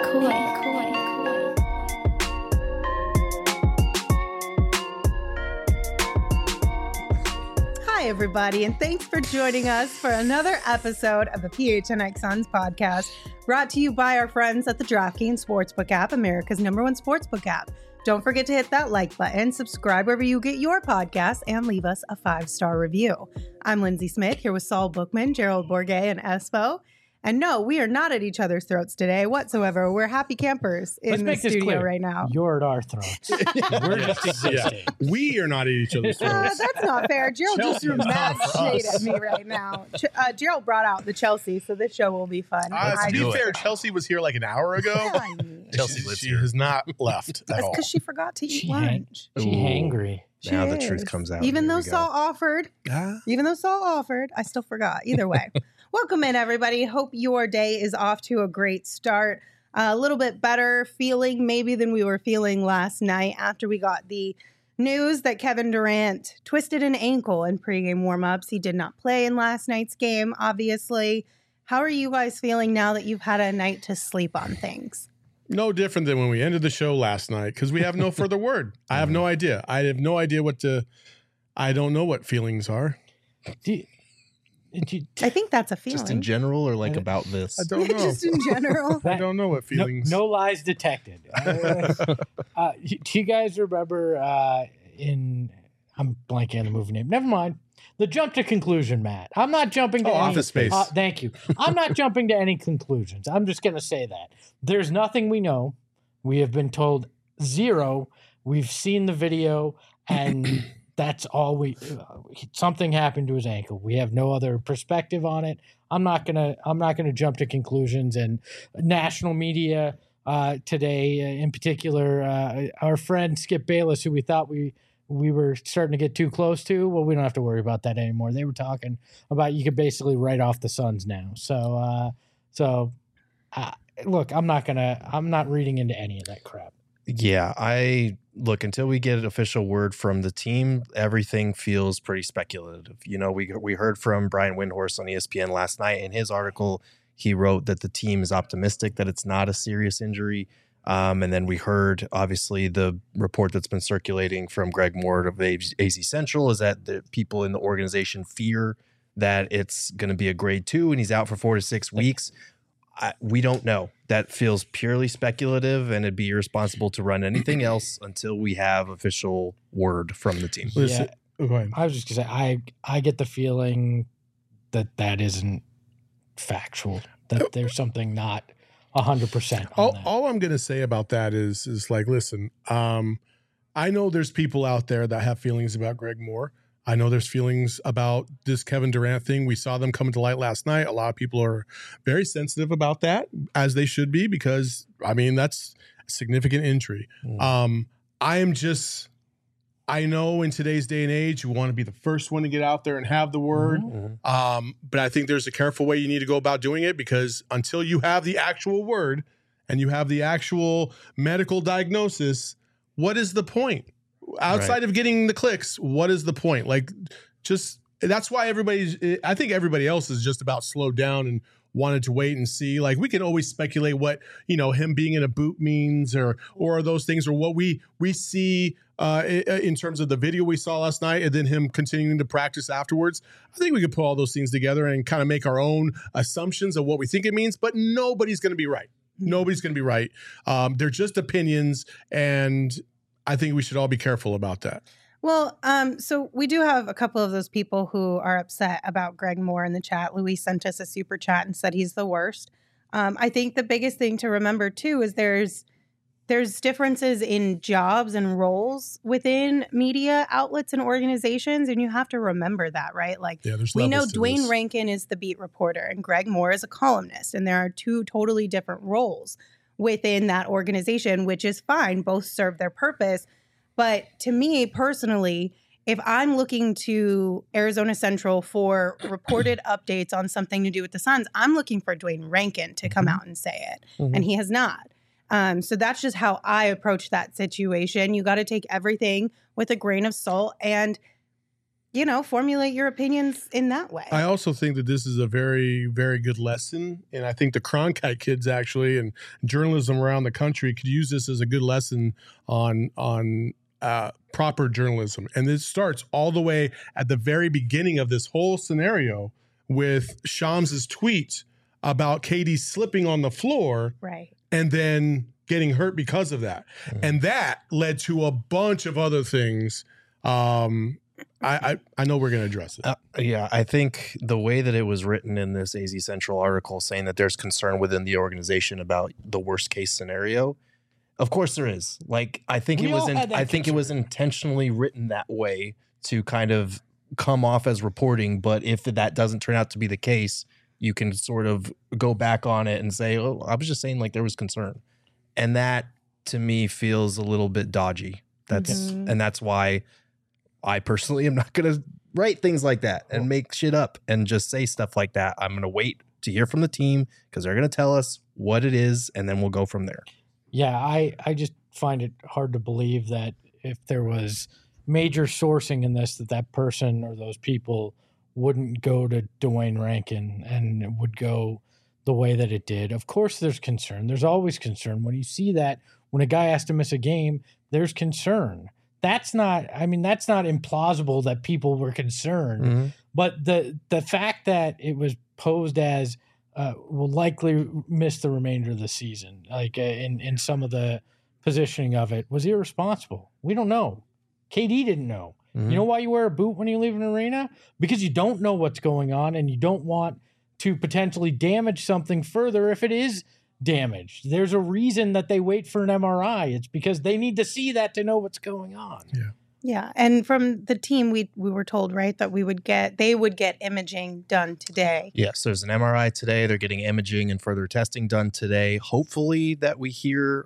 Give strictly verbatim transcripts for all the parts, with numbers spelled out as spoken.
McCoy. Hi, everybody, and thanks for joining us for another episode of the P H N X Suns podcast, brought to you by our friends at the DraftKings Sportsbook app, America's number one sportsbook app. Don't forget to hit that like button, subscribe wherever you get your podcasts, and leave us a five-star review. I'm Lindsay Smith, here with Saul Bookman, Gerald Bourget, and Espo. And no, we are not at each other's throats today whatsoever. We're happy campers in Let's the make this studio clear. right now. You're at our throats. We're just existing. Yeah. We are not at each other's Uh, throats. that's not fair. Gerald just Chelsea threw is mad not for shade us. at me right now. Ch- uh, Gerald brought out the Chelsea, so this show will be fun. Uh, I to be do fair, it. Chelsea was here like an hour ago. Chelsea she, lives she here. has not left at That's all. because she forgot to eat She hang- lunch. She Ooh. hangry. She Now the is. truth comes out. Even Here though we go. Saul offered, Ah. even though Saul offered, I still forgot. Either way. Welcome in, everybody. Hope your day is off to a great start. Uh, a little bit better feeling maybe than we were feeling last night after we got the news that Kevin Durant twisted an ankle in pregame warmups. He did not play in last night's game, obviously. How are you guys feeling now that you've had a night to sleep on things? No different than when we ended the show last night because we have no further word. I have no idea. I have no idea what to. I don't know what feelings are. Do you, do you, I think that's a feeling. Just in general or like about this? I don't know. Just in general. I don't know what no, feelings. no lies detected. Uh, uh, do you guys remember uh, in, I'm blanking on the movie name. Never mind. The jump to conclusion, Matt. I'm not jumping to Oh, any, Office Space. Uh, thank you. I'm not jumping to any conclusions. I'm just going to say that. There's nothing we know. We have been told zero. We've seen the video, and that's all we. Uh, something happened to his ankle. We have no other perspective on it. I'm not gonna. I'm not gonna jump to conclusions. And national media uh, today, uh, in particular, uh, our friend Skip Bayless, who we thought we. we were starting to get too close to, well, we don't have to worry about that anymore. They were talking about you could basically write off the Suns now. So, uh, so uh, look, I'm not going to, I'm not reading into any of that crap. Yeah, I look until we get an official word from the team. Everything feels pretty speculative. You know, we we heard from Brian Windhorst on E S P N last night. In his article, he wrote that the team is optimistic that it's not a serious injury. Um, and then we heard, obviously, the report that's been circulating from Greg Moore of A Z Central is that the people in the organization fear that it's going to be a grade two and he's out for four to six weeks. I, we don't know. That feels purely speculative, and it'd be irresponsible to run anything else until we have official word from the team. Listen, Yeah. oh, go ahead. I was just going to say, I, I get the feeling that that isn't factual, that there's something not A hundred percent. All, all I'm going to say about that is, is like, listen, um, I know there's people out there that have feelings about Greg Moore. I know there's feelings about this Kevin Durant thing. We saw them come to light last night. A lot of people are very sensitive about that, as they should be, because, I mean, that's a significant injury. Mm. Um, I am just, I know in today's day and age, you want to be the first one to get out there and have the word. Mhm. Um, but I think there's a careful way you need to go about doing it, because until you have the actual word and you have the actual medical diagnosis, what is the point? Outside Right. of getting the clicks, what is the point? Like, just that's why everybody's, I think everybody else is just about slowed down and wanted to wait and see. Like, we can always speculate what, you know, him being in a boot means, or or those things, or what we we see uh, in terms of the video we saw last night, and then him continuing to practice afterwards. I think we could put all those things together and kind of make our own assumptions of what we think it means, but nobody's going to be right. Nobody's going to be right. Um, they're just opinions, and I think we should all be careful about that. Well, um, so we do have a couple of those people who are upset about Greg Moore in the chat. Luis sent us a super chat and said he's the worst. Um, I think the biggest thing to remember too is there's there's differences in jobs and roles within media outlets and organizations, and you have to remember that, right? Like, Yeah, there's we know levels to Dwayne this. Rankin is the beat reporter and Greg Moore is a columnist, and there are two totally different roles within that organization, which is fine. Both serve their purpose. But to me personally, if I'm looking to Arizona Central for reported updates on something to do with the Suns, I'm looking for Dwayne Rankin to come out and say it. Mhm. And he has not. Um, so that's just how I approach that situation. You got to take everything with a grain of salt. And you know, formulate your opinions in that way. I also think that this is a very, very good lesson. And I think the Cronkite kids actually and journalism around the country could use this as a good lesson on on uh, proper journalism. And this starts all the way at the very beginning of this whole scenario with Shams' tweet about K D slipping on the floor. Right. And then getting hurt because of that. Mm-hmm. And that led to a bunch of other things. Um, I, I, I know we're going to address it. Uh, yeah, I think the way that it was written in this A Z Central article saying that there's concern within the organization about the worst case scenario. Of course there is. Like, I think We it was, all in, had that I think concern. it was intentionally written that way to kind of come off as reporting. But if that doesn't turn out to be the case, you can sort of go back on it and say, oh, I was just saying like there was concern. And that to me feels a little bit dodgy. That's Mhm. and that's why I personally am not going to write things like that and make shit up and just say stuff like that. I'm going to wait to hear from the team because they're going to tell us what it is, and then we'll go from there. Yeah, I, I just find it hard to believe that if there was major sourcing in this, that that person or those people wouldn't go to Dwayne Rankin and it would go the way that it did. Of course there's concern. There's always concern. When you see that, when a guy has to miss a game, there's concern. That's not, I mean, that's not implausible that people were concerned. Mm-hmm. But the the fact that it was posed as uh, will likely miss the remainder of the season, like uh, in, in some of the positioning of it, was irresponsible. We don't know. K D didn't know. Mm-hmm. You know why you wear a boot when you leave an arena? Because you don't know what's going on and you don't want to potentially damage something further if it is damaged. There's a reason that they wait for an M R I. It's because they need to see that to know what's going on. Yeah. Yeah, and from the team, we we were told, right, that we would get they would get imaging done today. Yes, there's an M R I today. They're getting imaging and further testing done today. Hopefully that we hear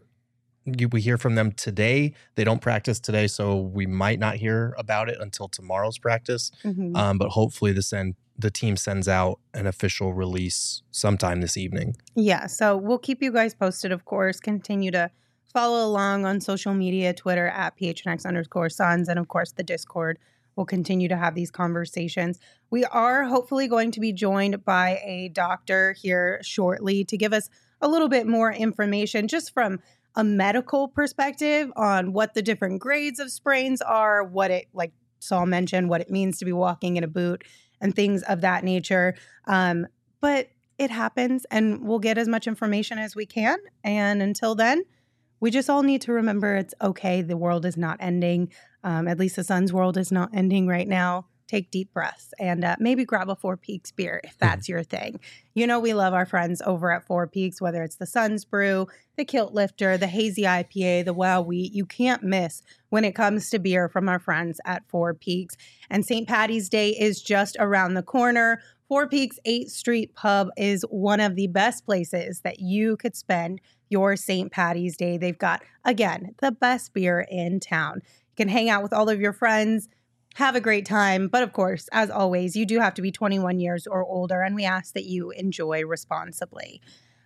we hear from them today. They don't practice today, so we might not hear about it until tomorrow's practice. Mhm. Um, but hopefully the send the team sends out an official release sometime this evening. Yeah, so we'll keep you guys posted, of course. Continue to follow along on social media, Twitter at P H N X underscore Suns, and of course the Discord. We'll continue to have these conversations. We are hopefully going to be joined by a doctor here shortly to give us a little bit more information just from a medical perspective on what the different grades of sprains are, what it, like Saul mentioned, what it means to be walking in a boot and things of that nature. Um, but it happens and we'll get as much information as we can. And until then, we just all need to remember it's okay. The world is not ending. Um, at least the Suns' world is not ending right now. Take deep breaths and uh, maybe grab a Four Peaks beer if that's your thing. You know, we love our friends over at Four Peaks, whether it's the Suns Brew, the Kilt Lifter, the Hazy I P A, the Wow Wheat. You can't miss when it comes to beer from our friends at Four Peaks. And Saint Patty's Day is just around the corner. Four Peaks eighth Street Pub is one of the best places that you could spend your Saint Patty's Day. They've got, again, the best beer in town. You can hang out with all of your friends, have a great time. But of course, as always, you do have to be twenty-one years or older, and we ask that you enjoy responsibly.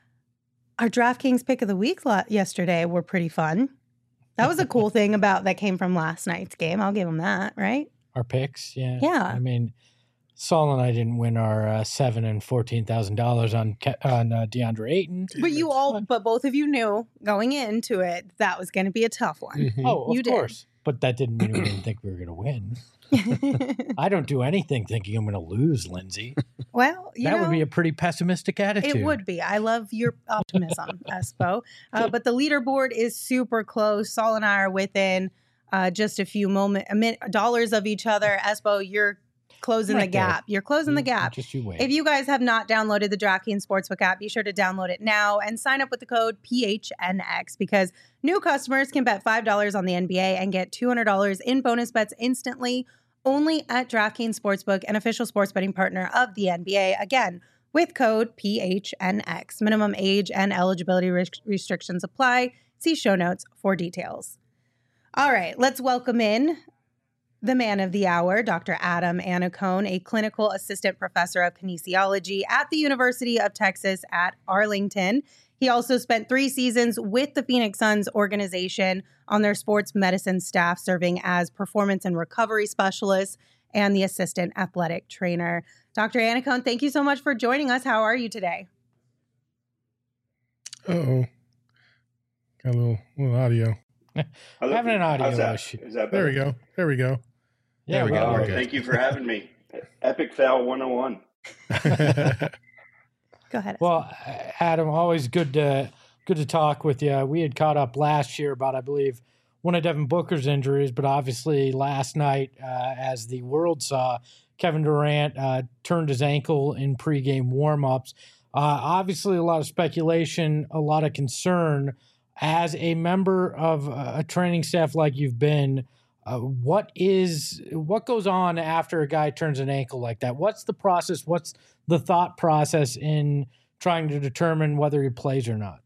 Our DraftKings pick of the week la- yesterday were pretty fun. That was a cool thing about that came from last night's game. I'll give them that, right? Our picks, yeah. Yeah. I mean, Saul and I didn't win our uh, seven and fourteen thousand dollars on Ke- on uh, DeAndre Ayton. But you all, but both of you knew going into it that was going to be a tough one. Mhm. Oh, of You did. course. But that didn't mean we didn't think we were going to win. I don't do anything thinking I'm going to lose, Lindsay. Well, you that know, would be a pretty pessimistic attitude. it would be. I love your optimism, Espo. Uh, but the leaderboard is super close. Saul and I are within uh, just a few moment, a min- dollars of each other. Espo, you're closing Right the there. gap. You're closing the You- gap. Just you wait. If you guys have not downloaded the DraftKings Sportsbook app, be sure to download it now and sign up with the code P H N X because new customers can bet five dollars on the N B A and get two hundred dollars in bonus bets instantly only at DraftKings Sportsbook, an official sports betting partner of the N B A. Again, with code P H N X. Minimum age and eligibility res- restrictions apply. See show notes for details. All right, let's welcome in the man of the hour, Doctor Adam Anacone, a clinical assistant professor of kinesiology at the University of Texas at Arlington. He also spent three seasons with the Phoenix Suns organization on their sports medicine staff, serving as performance and recovery specialist. and the assistant athletic trainer. Doctor Annacone, thank you so much for joining us. How are you today? Uh-oh. Got a little, little audio. Having an audio How's that? issue. Is that There better? we go. There we go. Yeah, There we we go. got We're Oh, good. thank you for having me. Epic Fail one oh one. Go ahead. Well, Adam, always good to good to talk with you. We had caught up last year about, I believe, one of Devin Booker's injuries, but obviously last night, uh, as the world saw, Kevin Durant uh, turned his ankle in pregame warmups. Uh, obviously, a lot of speculation, a lot of concern. As a member of a training staff like you've been, uh, what is what goes on after a guy turns an ankle like that? What's the process? What's the thought process in trying to determine whether he plays or not?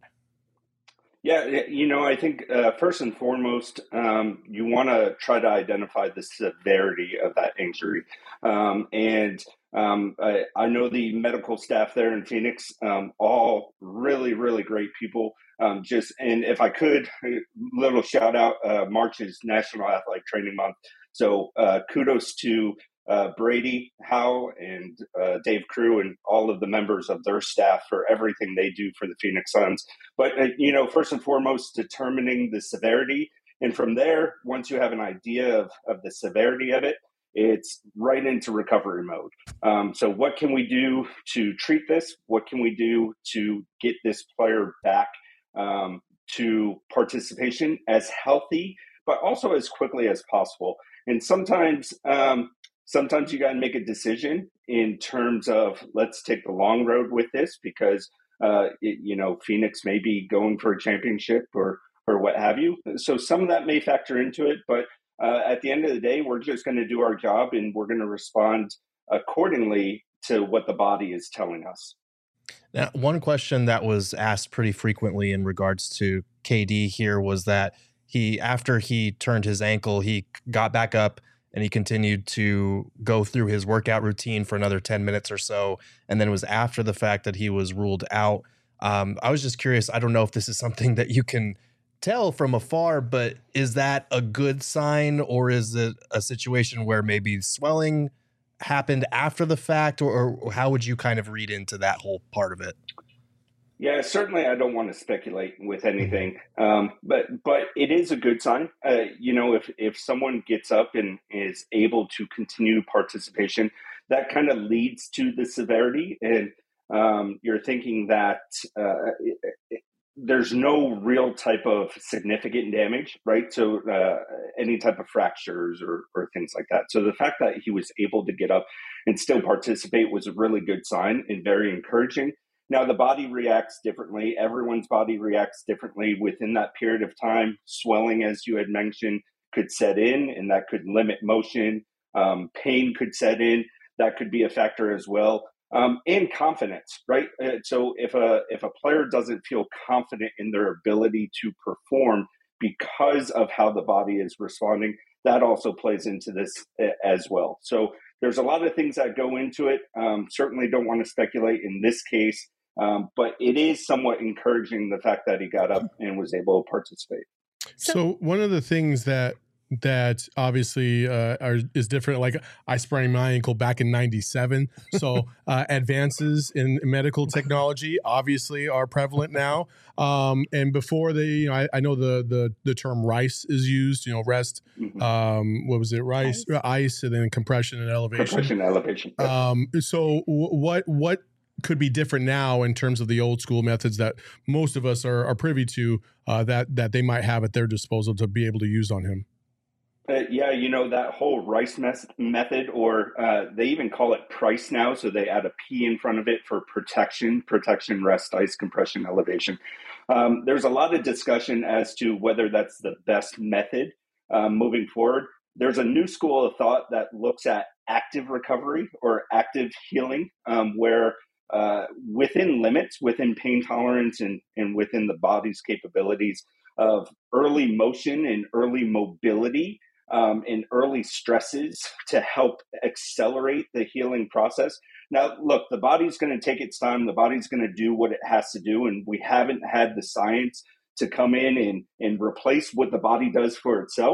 Yeah, you know, I think uh, first and foremost, um, you want to try to identify the severity of that injury. Um, and um, I, I know the medical staff there in Phoenix, um, all really, really great people. Um, just and if I could, a little shout out, uh, March is National Athletic Training Month. So uh, kudos to uh, Brady, Howe, and uh, Dave Crew, and all of the members of their staff for everything they do for the Phoenix Suns. But, uh, you know, first and foremost, determining the severity. And from there, once you have an idea of, of the severity of it, it's right into recovery mode. Um, so what can we do to treat this? What can we do to get this player back um, to participation as healthy, but also as quickly as possible? And sometimes, um, sometimes you got to make a decision in terms of, let's take the long road with this because, uh, it, you know, Phoenix may be going for a championship or, or what have you. So some of that may factor into it, but uh, at the end of the day, we're just going to do our job and we're going to respond accordingly to what the body is telling us. Now, one question that was asked pretty frequently in regards to K D here was that he, after he turned his ankle, he got back up and he continued to go through his workout routine for another ten minutes or so. And then it was after the fact that he was ruled out. Um, I was just curious. I don't know if this is something that you can tell from afar, but is that a good sign, or is it a situation where maybe swelling happened after the fact, or, or how would you kind of read into that whole part of it? Yeah, certainly I don't want to speculate with anything, um, but but it is a good sign. Uh, you know, if, if someone gets up and is able to continue participation, that kind of leads to the severity. And um, you're thinking that uh, it, it, there's no real type of significant damage, right? So uh, any type of fractures or, or things like that. So the fact that he was able to get up and still participate was a really good sign and very encouraging. Now, the body reacts differently. Everyone's body reacts differently within that period of time. Swelling, as you had mentioned, could set in, and that could limit motion. Um, pain could set in. That could be a factor as well. Um, and confidence, right? Uh, so if a if a player doesn't feel confident in their ability to perform because of how the body is responding, that also plays into this uh, as well. So there's a lot of things that go into it. Um, certainly don't want to speculate in this case, um, but it is somewhat encouraging the fact that he got up and was able to participate. So one of the things that that obviously uh, are, is different. Like I sprained my ankle back in ninety-seven. So uh, advances in medical technology obviously are prevalent now. Um, and before they, you know, I, I know the, the, the term RICE is used, you know, rest, Mm-hmm. um, what was it? RICE, ice, ice and then compression and elevation. Compression and elevation. Yep. Um, so w- what, what, could be different now in terms of the old school methods that most of us are, are privy to uh, that, that they might have at their disposal to be able to use on him? Uh, yeah, you know, that whole RICE mes- method, or uh, they even call it PRICE now. So they add a P in front of it for protection, protection, rest, ice, compression, elevation. Um, there's a lot of discussion as to whether that's the best method um, moving forward. There's a new school of thought that looks at active recovery or active healing, um, where uh, within limits, within pain tolerance and, and within the body's capabilities of early motion and early mobility, Um, and early stresses to help accelerate the healing process. Now, look, the body's going to take its time. The body's going to do what it has to do. And we haven't had the science to come in and, and replace what the body does for itself.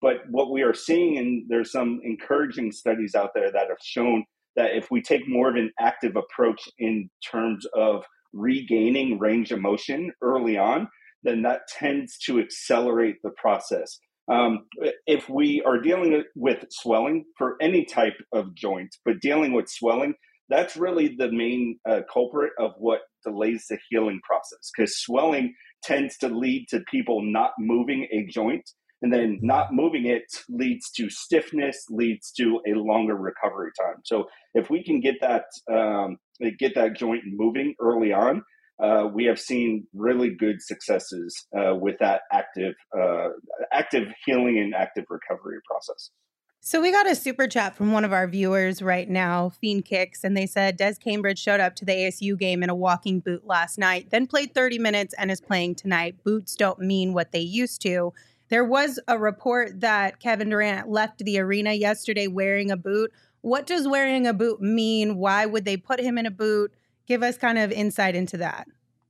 But what we are seeing, and there's some encouraging studies out there that have shown that if we take more of an active approach in terms of regaining range of motion early on, then that tends to accelerate the process. Um, if we are dealing with swelling for any type of joint, but dealing with swelling, that's really the main uh, culprit of what delays the healing process, because swelling tends to lead to people not moving a joint, and then not moving it leads to stiffness, leads to a longer recovery time. So if we can get that um, get that joint moving early on, uh, we have seen really good successes uh, with that active uh, active healing and active recovery process. So we got a super chat from one of our viewers right now, Fiend Kicks, and they said Des Cambridge showed up to the A S U game in a walking boot last night, then played thirty minutes and is playing tonight. Boots don't mean what they used to. There was a report that Kevin Durant left the arena yesterday wearing a boot. What does wearing a boot mean? Why would they put him in a boot? Give us kind of insight into that.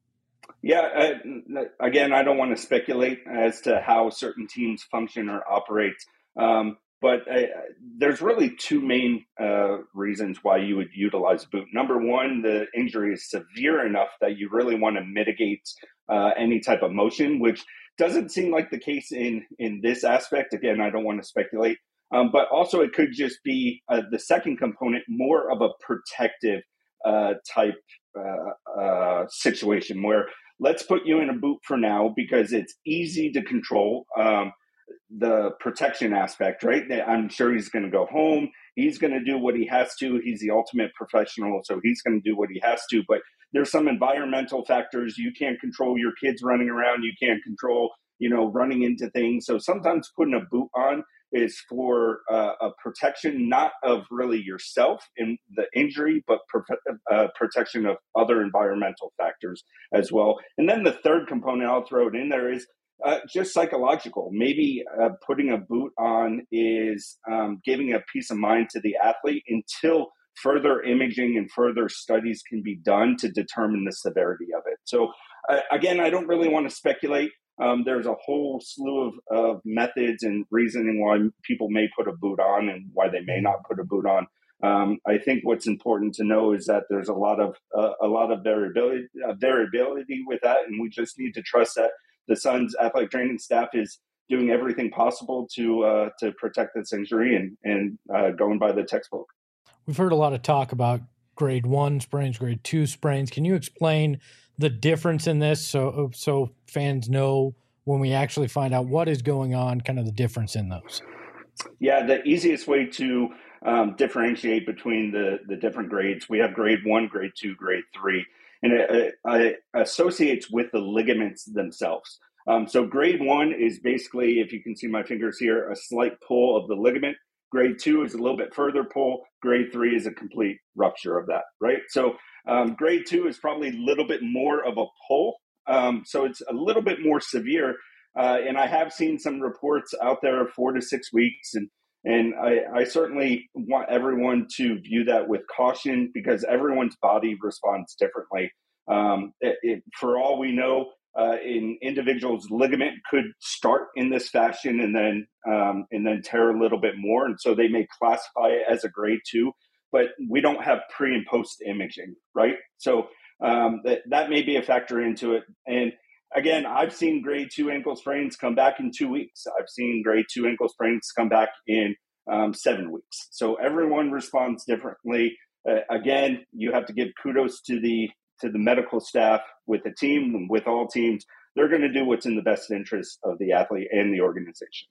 Yeah, uh, again, I don't want to speculate as to how certain teams function or operate. Um, But uh, there's really two main uh, reasons why you would utilize a boot. Number one, the injury is severe enough that you really want to mitigate uh, any type of motion, which doesn't seem like the case in, in this aspect. Again, I don't want to speculate. Um, but also it could just be uh, the second component, more of a protective uh, type uh, uh, situation where let's put you in a boot for now because it's easy to control. Um, the protection aspect, right? I'm sure he's going to go home. He's going to do what he has to. He's the ultimate professional, so he's going to do what he has to. But there's some environmental factors. You can't control your kids running around. You can't control, you know, running into things. So sometimes putting a boot on is for uh, a protection, not of really yourself in the injury, but pro- uh, protection of other environmental factors as well. And then the third component, I'll throw it in there, is Uh, just psychological. Maybe uh, putting a boot on is um, giving a peace of mind to the athlete until further imaging and further studies can be done to determine the severity of it. So uh, again, I don't really want to speculate. Um, there's a whole slew of, of methods and reasoning why people may put a boot on and why they may not put a boot on. Um, I think what's important to know is that there's a lot of uh, a lot of variability uh, variability with that, and we just need to trust that the Suns athletic training staff is doing everything possible to uh, to protect this injury and and uh, going by the textbook. We've heard a lot of talk about grade one sprains, grade two sprains. Can you explain the difference in this so so fans know when we actually find out what is going on, kind of the difference in those? Yeah, the easiest way to um, differentiate between the, the different grades, we have grade one, grade two, grade three, and it, it, it associates with the ligaments themselves. Um, so grade one is basically, if you can see my fingers here, a slight pull of the ligament. Grade two is a little bit further pull. Grade three is a complete rupture of that, right? So um, grade two is probably a little bit more of a pull. Um, so it's a little bit more severe. Uh, and I have seen some reports out there of four to six weeks. And and I, I certainly want everyone to view that with caution because everyone's body responds differently. Um, it, it, for all we know, uh, in individuals, ligament could start in this fashion and then um, and then tear a little bit more. And so they may classify it as a grade two, but we don't have pre and post imaging, right? So um, that, that may be a factor into it. And again, I've seen grade two ankle sprains come back in two weeks. I've seen grade two ankle sprains come back in um, seven weeks. So everyone responds differently. Uh, again, you have to give kudos to the to the medical staff with the team and with all teams. They're going to do what's in the best interest of the athlete and the organization.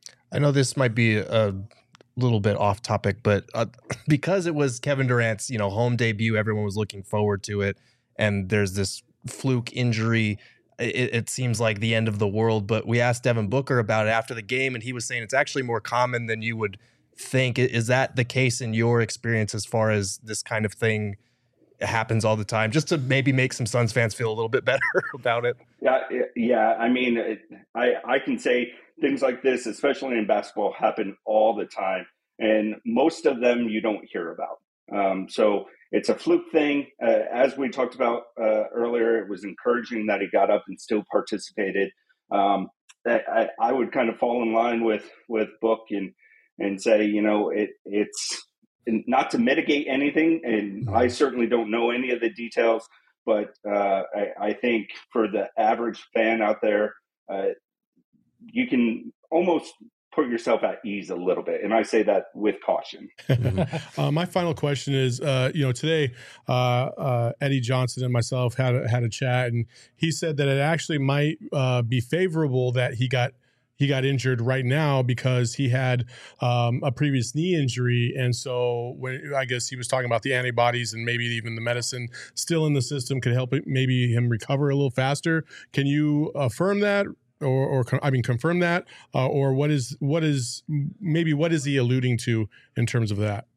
I know this might be a little bit off topic, but uh, because it was Kevin Durant's, you know, home debut, everyone was looking forward to it. And there's this fluke injury. It, it seems like the end of the world, but we asked Devin Booker about it after the game, and he was saying it's actually more common than you would think. Is that the case in your experience as far as this kind of thing happens all the time, just to maybe make some Suns fans feel a little bit better about it? Yeah, yeah. I mean, it, I, I can say things like this, especially in basketball, happen all the time, and most of them you don't hear about. Um, so it's a fluke thing. Uh, as we talked about uh, earlier, it was encouraging that he got up and still participated. Um, I, I would kind of fall in line with, with Book and, and say, you know, it it's not to mitigate anything. And mm-hmm. I certainly don't know any of the details, but uh, I, I think for the average fan out there, uh, you can almost put yourself at ease a little bit. And I say that with caution. uh, my final question is, uh, you know, today, uh, uh, Eddie Johnson and myself had a, had a chat, and he said that it actually might uh, be favorable that he got he got injured right now because he had um, a previous knee injury. And so when I guess he was talking about the antibodies and maybe even the medicine still in the system could help it, maybe him recover a little faster. Can you affirm that? Or, or I mean, confirm that, uh, or what is what is maybe what is he alluding to in terms of that?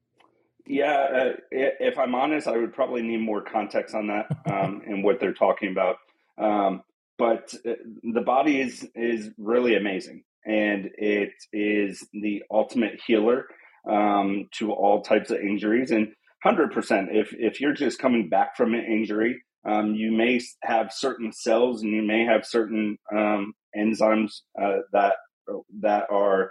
Yeah, uh, if I'm honest, I would probably need more context on that um, and what they're talking about. Um, but the body is is really amazing, and it is the ultimate healer um, to all types of injuries. And one hundred percent, if if you're just coming back from an injury. Um, you may have certain cells and you may have certain um, enzymes uh, that that are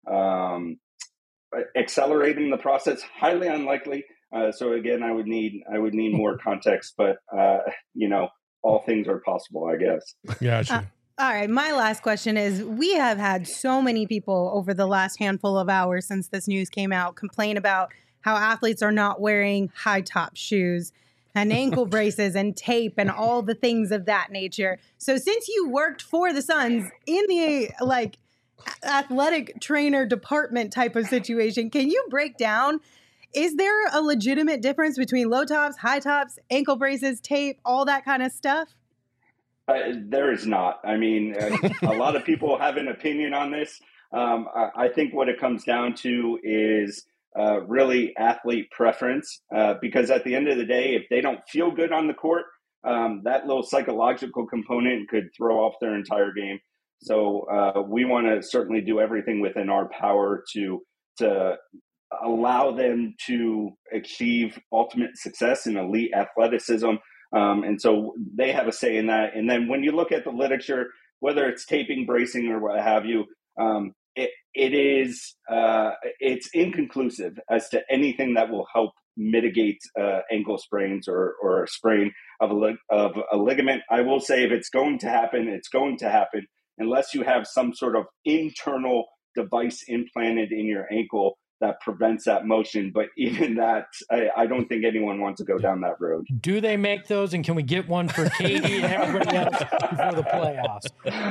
um, accelerating the process. Highly unlikely. Uh, so again, I would need I would need more context, but uh, you know, all things are possible, I guess. Gotcha. Uh, all right. My last question is: we have had so many people over the last handful of hours since this news came out complain about how athletes are not wearing high top shoes and ankle braces and tape and all the things of that nature. So since you worked for the Suns in the like athletic trainer department type of situation, can you break down, is there a legitimate difference between low tops, high tops, ankle braces, tape, all that kind of stuff? Uh, there is not. I mean, uh, a lot of people have an opinion on this. Um, I, I think what it comes down to is Uh, really athlete preference, uh, because at the end of the day, if they don't feel good on the court, um, that little psychological component could throw off their entire game. So uh, we want to certainly do everything within our power to to allow them to achieve ultimate success in elite athleticism. Um, and so they have a say in that. And then when you look at the literature, whether it's taping, bracing, or what have you, um, It, it is uh, it's inconclusive as to anything that will help mitigate uh, ankle sprains or, or a sprain of a, lig- of a ligament. I will say if it's going to happen, it's going to happen unless you have some sort of internal device implanted in your ankle that prevents that motion. But even that, I, I don't think anyone wants to go down that road. Do they make those? And can we get one for Katie and everybody else before the playoffs?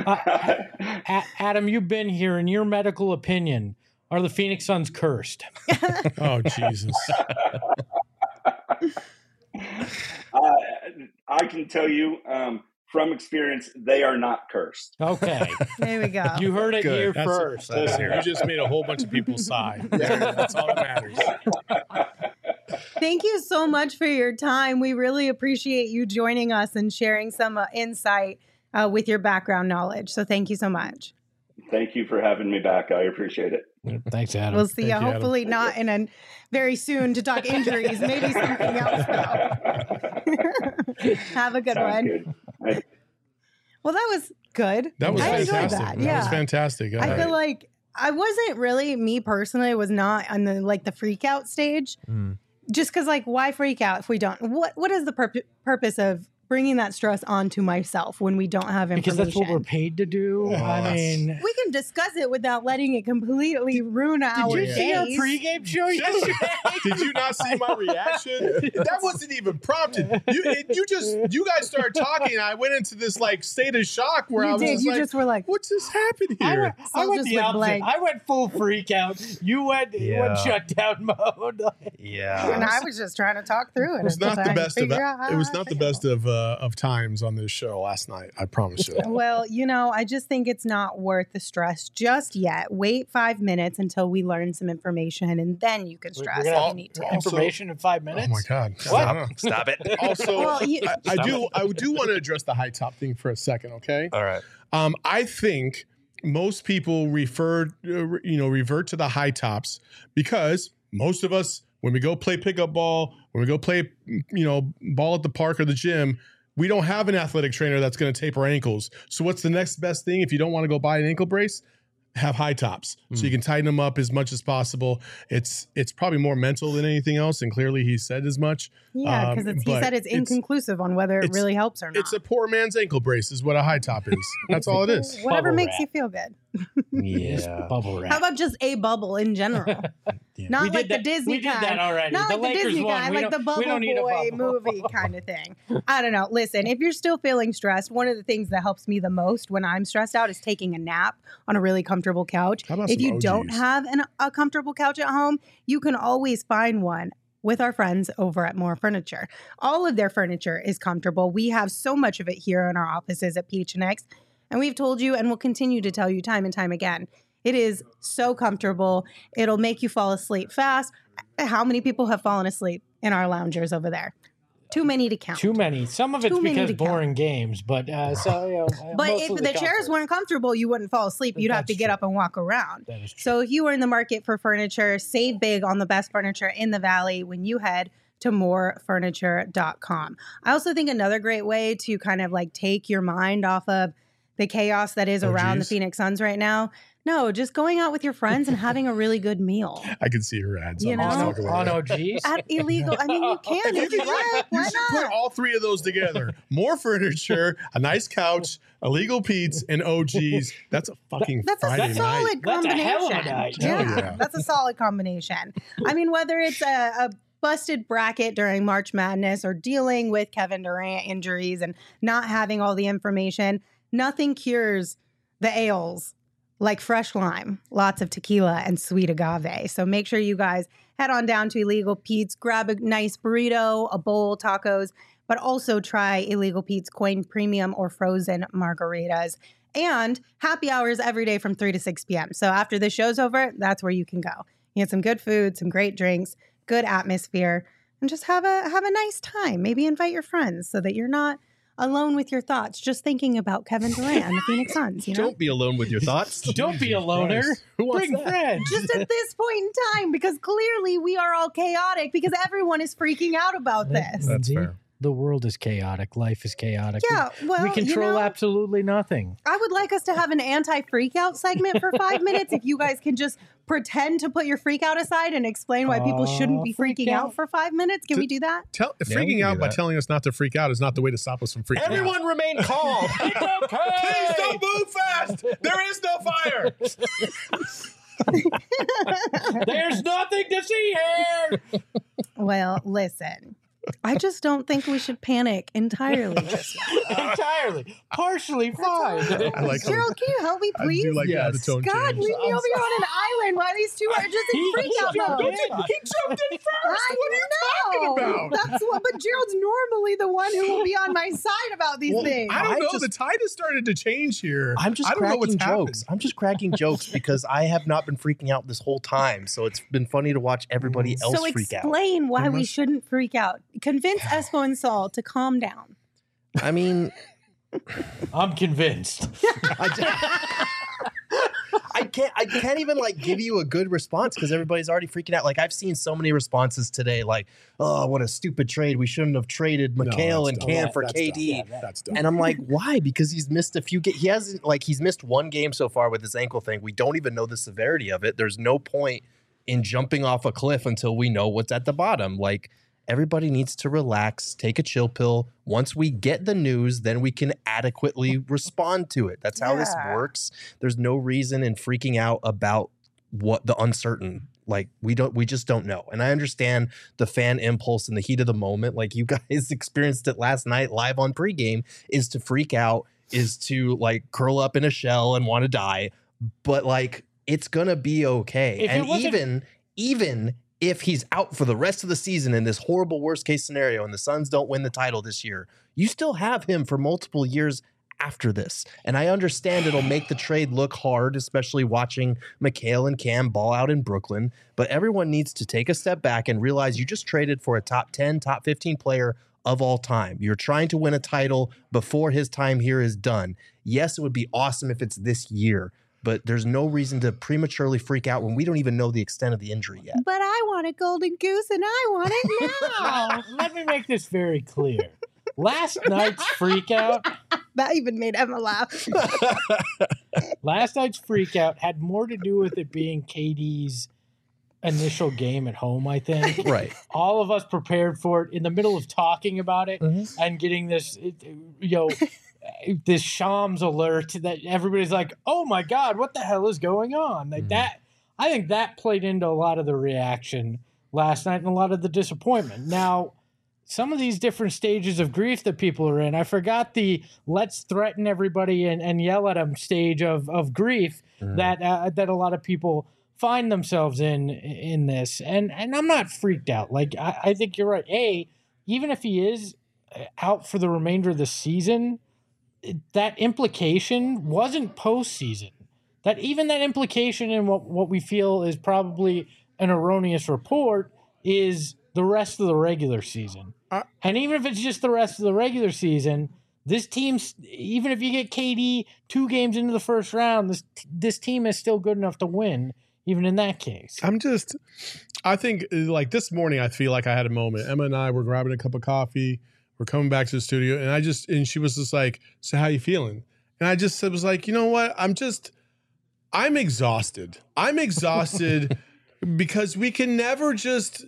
Uh, Adam, you've been here. In your medical opinion, are the Phoenix Suns cursed? Oh, Jesus. uh, I can tell you um, from experience, they are not cursed. Okay. There we go. You heard it Good. here That's, first. That's, you just made a whole bunch of people sigh. That's all that matters. Thank you so much for your time. We really appreciate you joining us and sharing some uh, insight uh, with your background knowledge. So thank you so much. Thank you for having me back. I appreciate it. Thanks, Adam. We'll see Thank you you, hopefully Adam. not in a very soon to talk injuries, maybe something else though. Have a good Sounds one. Good. I, Well, that was good. That was I enjoyed fantastic. that. That Yeah. was fantastic. I Uh, feel like I wasn't really, me personally, was not on the like the freak out stage. Mm. Just because, like, why freak out if we don't? What What is the purp- purpose of bringing that stress onto myself when we don't have information? Because that's what we're paid to do. Oh, I that's- mean, We can discuss it without letting it completely ruin our did you see our days. pregame show yesterday? Did you not see my reaction? That wasn't even prompted. You it, you just you guys started talking, and I went into this like state of shock where You I was did. just You like, just were like, "What just happened I here?" went, I Saul went just the went opposite. blank. I went full freak out. You went, you went Yeah. shutdown mode. Yeah. and I was just trying to talk through it. It was until not the I best of figure out how it was I not the feel. best of uh, of times on this show last night. I promise you. Well, you know, I just think it's not worth the stress just yet. Wait five minutes until we learn some information, and then you can We're stress gonna if have you need to. Also- Information in five Oh minutes. my god! What? I don't know. Stop it. Also, Well, you- I, I Stop do it. I do want to address the high top thing for a second. Okay. All right. Um, I think most people refer, uh, you know, revert to the high tops because most of us, when we go play pickup ball, when we go play, you know, ball at the park or the gym, we don't have an athletic trainer that's going to tape our ankles. So what's the next best thing if you don't want to go buy an ankle brace? Have high tops, mm. so you can tighten them up as much as possible. It's it's probably more mental than anything else, and clearly he said as much. Yeah, because um, he said it's inconclusive it's, on whether it really helps or not. It's a poor man's ankle brace is what a high top is. That's all it is. Whatever Bubble makes wrap. you feel good. Yeah, bubble wrap. How about just a bubble in general? Yeah. Not We like did the that- Disney we did kind. that already. Not The like the Lakers Disney won. kind, We like the don't- Bubble we don't need a Boy bubble. movie kind of thing. I don't know. Listen, if you're still feeling stressed, one of the things that helps me the most when I'm stressed out is taking a nap on a really comfortable couch. How about If some you don't O Gs? have an, a comfortable couch at home, you can always find one with our friends over at More Furniture. All of their furniture is comfortable. We have so much of it here in our offices at P H N X, and we've told you and will continue to tell you time and time again. It is so comfortable. It'll make you fall asleep fast. How many people have fallen asleep in our loungers over there? Too many to count. Too many. Some of it's Too many because to count. boring games, but uh, so you know. But most if of the, chairs comfort. weren't comfortable, you wouldn't fall asleep. You'd have That's to get true. up and walk around. That is true. So if you are in the market for furniture, save big on the best furniture in the Valley when you head to more furniture dot com. I also think another great way to kind of like take your mind off of the chaos that is Oh, around the geez. Phoenix Suns right now. No, just going out with your friends and having a really good meal. I can see her ads. You I'm know? just on, talking about on that. O Gs. At illegal, I mean, you can. If you like, You why should not? put all three of those together. More furniture, a nice couch, illegal Pete's, and O Gs. That's a fucking That's a Friday night. solid That's a combination. hell of a night. Yeah, Hell yeah. that's a solid combination. I mean, whether it's a, a busted bracket during March Madness or dealing with Kevin Durant injuries and not having all the information, nothing cures the ails like fresh lime, lots of tequila, and sweet agave. So make sure you guys head on down to Illegal Pete's, grab a nice burrito, a bowl, tacos, but also try Illegal Pete's Coin Premium or frozen margaritas. And happy hours every day from three to six p.m. So after the show's over, that's where you can go. You get some good food, some great drinks, good atmosphere, and just have a have a nice time. Maybe invite your friends so that you're not alone with your thoughts, just thinking about Kevin Durant and the Phoenix Suns, you know? Don't be alone with your thoughts. Don't be a loner. Christ. Who wants Bring that? friends. Just at this point in time, because clearly we are all chaotic because everyone is freaking out about this. That's Lindsay, fair. The world is chaotic. Life is chaotic. Yeah, well, we control you know, absolutely nothing. I would like us to have an anti-freakout segment for five minutes. If you guys can just pretend to put your freakout aside and explain why people shouldn't be Uh, freak freaking out out. for five minutes. Can we do that? Tell, Yeah, we freaking can out do by that. telling us not to freak out is not the way to stop us from freaking out. Everyone remain calm. It's okay. Please don't move fast. There is no fire. There's nothing to see here. Well, listen. I just don't think we should panic entirely just yet. Entirely. Partially fine. I like how Gerald, can you help me, I please? do like how the Yes. tone God, change. leave me over here on an island while these two are just in He- freak out he mode. jumped in. He jumped in first. I What are you know. talking about? That's what. But Gerald's normally the one who will be on my side about these Well, things. I don't I know. just- the tide has started to change here. I'm just I don't know what's cracking happened. jokes. I'm just cracking jokes because I have not been freaking out this whole time. So it's been funny to watch everybody else so freak out. explain why You we must- shouldn't freak out. Convince Espo and Saul to calm down. I mean, I'm convinced. I, ju- I can't. I can't even like give you a good response because everybody's already freaking out. Like I've seen so many responses today, like, "Oh, what a stupid trade! We shouldn't have traded No, McHale that's and dumb. Cam That- for that's K dumb. D." Yeah, that- That's dumb. And I'm like, why? Because he's missed a few games. He hasn't like he's missed one game so far with his ankle thing. We don't even know the severity of it. There's no point in jumping off a cliff until we know what's at the bottom. Like everybody needs to relax, take a chill pill. Once we get the news, then we can adequately respond to it. That's how this Yeah. works. There's no reason in freaking out about what the uncertain. Like we don't, we just don't know. And I understand the fan impulse in the heat of the moment. Like you guys experienced it last night live on pregame is to freak out, is to like curl up in a shell and want to die. But like, it's going to be okay. If it And wasn't- even, even if he's out for the rest of the season in this horrible worst case scenario and the Suns don't win the title this year, you still have him for multiple years after this. And I understand it'll make the trade look hard, especially watching McHale and Cam ball out in Brooklyn. But everyone needs to take a step back and realize you just traded for a top ten, top fifteen player of all time. You're trying to win a title before his time here is done. Yes, it would be awesome if it's this year, but there's no reason to prematurely freak out when we don't even know the extent of the injury yet. But I want a golden goose and I want it now. Let me make this very clear. last night's freak out. That even made Emma laugh. Last night's freak out had more to do with it being K D's initial game at home, I think. Right. All of us prepared for it in the middle of talking about it Mm-hmm. and getting this, you know, this Shams alert that everybody's like, oh my God, what the hell is going on? Like Mhm. that, I think that played into a lot of the reaction last night and a lot of the disappointment. Now, some of these different stages of grief that people are in, I forgot the let's threaten everybody and, and yell at them stage of, of grief Mhm. that uh, that a lot of people find themselves in in this. And and I'm not freaked out. Like, I, I think you're right. A, even if he is out for the remainder of the season, that implication wasn't postseason. That even that implication in what, what we feel is probably an erroneous report is the rest of the regular season. Uh, and even if it's just the rest of the regular season, this team's, even if you get K D two games into the first round, this this team is still good enough to win, even in that case. I'm just, I think like this morning, I feel like I had a moment. Emma and I were grabbing a cup of coffee. We're coming back to the studio, and I just, and she was just like, so how you feeling? And I just said, was like, you know what? I'm just, I'm exhausted. I'm exhausted because we can never just,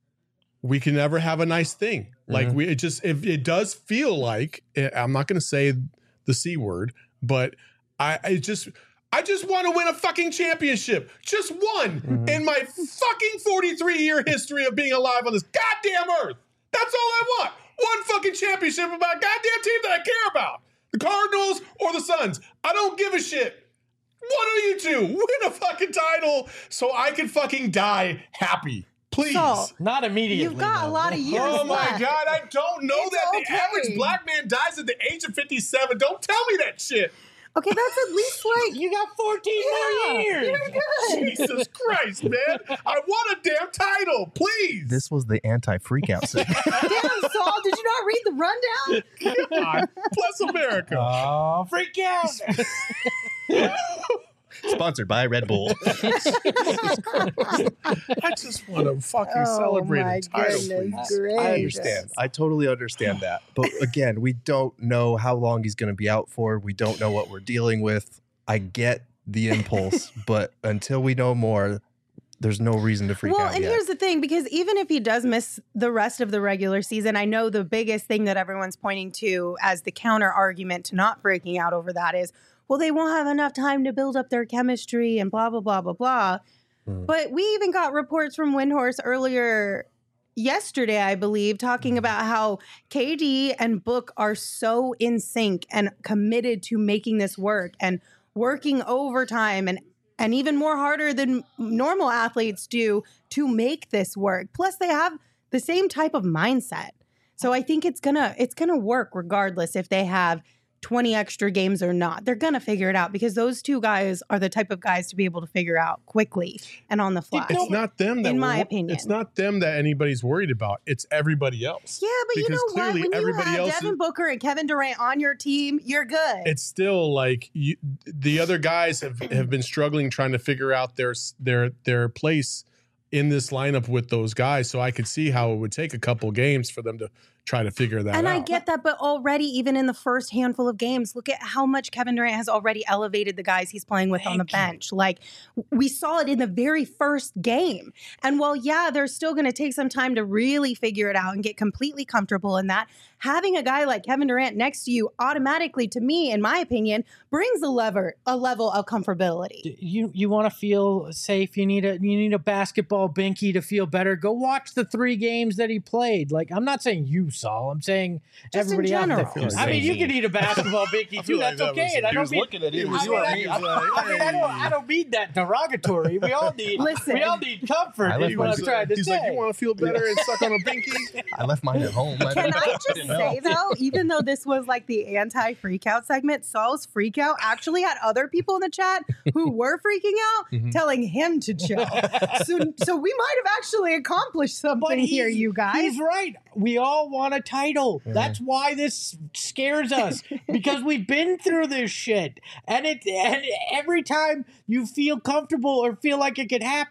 we can never have a nice thing. Like Mhm. we, it just, if it does feel like, I'm not going to say the C word, but I, I just, I just want to win a fucking championship. Just one Mhm. in my fucking forty-three year history of being alive on this goddamn earth. That's all I want. One fucking championship about a goddamn team that I care about. The Cardinals or the Suns. I don't give a shit. One of you two win a fucking title so I can fucking die happy. Please. So, Not immediately. You've got a though. lot of years Oh my left. God, I don't know It's that. okay. The average black man dies at the age of fifty-seven. Don't tell me that shit. Okay, that's at least like You got fourteen yeah, more years. you're good. Jesus Christ, man. I want a damn title, please. This was the anti-freakout segment. Damn, Saul, did you not read the rundown? God bless America. Oh, freak out. Sponsored by Red Bull. I just want to fucking Oh, celebrate my a title, goodness please. gracious. I understand. I totally understand that. But again, we don't know how long he's going to be out for. We don't know what we're dealing with. I get the impulse, but until we know more, there's no reason to freak well, out and yet. here's the thing, because even if he does miss the rest of the regular season, I know the biggest thing that everyone's pointing to as the counter argument to not freaking out over that is, well, they won't have enough time to build up their chemistry and blah, blah, blah, blah, blah. Hmm. But we even got reports from Windhorse earlier yesterday, I believe, talking about how K D and Book are so in sync and committed to making this work and working overtime and and even more harder than normal athletes do to make this work. Plus, they have the same type of mindset. So I think it's gonna it's gonna work regardless if they have twenty extra games or not. They're gonna figure it out because those two guys are the type of guys to be able to figure out quickly and on the fly. It's not them that In my we're- opinion. It's not them that anybody's worried about. It's everybody else. Yeah, but you Because know what? clearly When you everybody have else Devin is- Booker and Kevin Durant on your team, you're good. It's still like you, the other guys have, have been struggling trying to figure out their their their place in this lineup with those guys. So I could see how it would take a couple games for them to try to figure that and out. I get that, but already, even in the first handful of games, look at how much Kevin Durant has already elevated the guys he's playing with on the Thank you. bench. Like, we saw it in the very first game. And while, yeah, they're still going to take some time to really figure it out and get completely comfortable in that, having a guy like Kevin Durant next to you automatically, to me, in my opinion, brings a lever, a level of comfortability. You you want to feel safe. You need a you need a basketball binky to feel better. Go watch the three games that he played. Like, I'm not saying you, Saul. I'm saying Just in everybody out general. there. You're I mean, you saying can me. eat a basketball binky too. like That's that okay. was- And I he don't was mean, looking at I it. mean, It was you or I, me. I, I mean, I don't I don't mean that derogatory. We all need Listen. we all need comfort. I Is left what my- I'm trying to He's say. like, you want to feel better and suck on a binky? I left mine at home. I Can didn't- I just didn't say, help. though, even though this was like the anti freak out segment, Saul's freak out actually had other people in the chat who were freaking out Mhm. telling him to chill. So, so we might have actually accomplished something he's- here, you guys. He's right. We all want a title. Mhm. That's why this scares us because we've been through this shit. And it and every time you feel comfortable or feel like it could happen,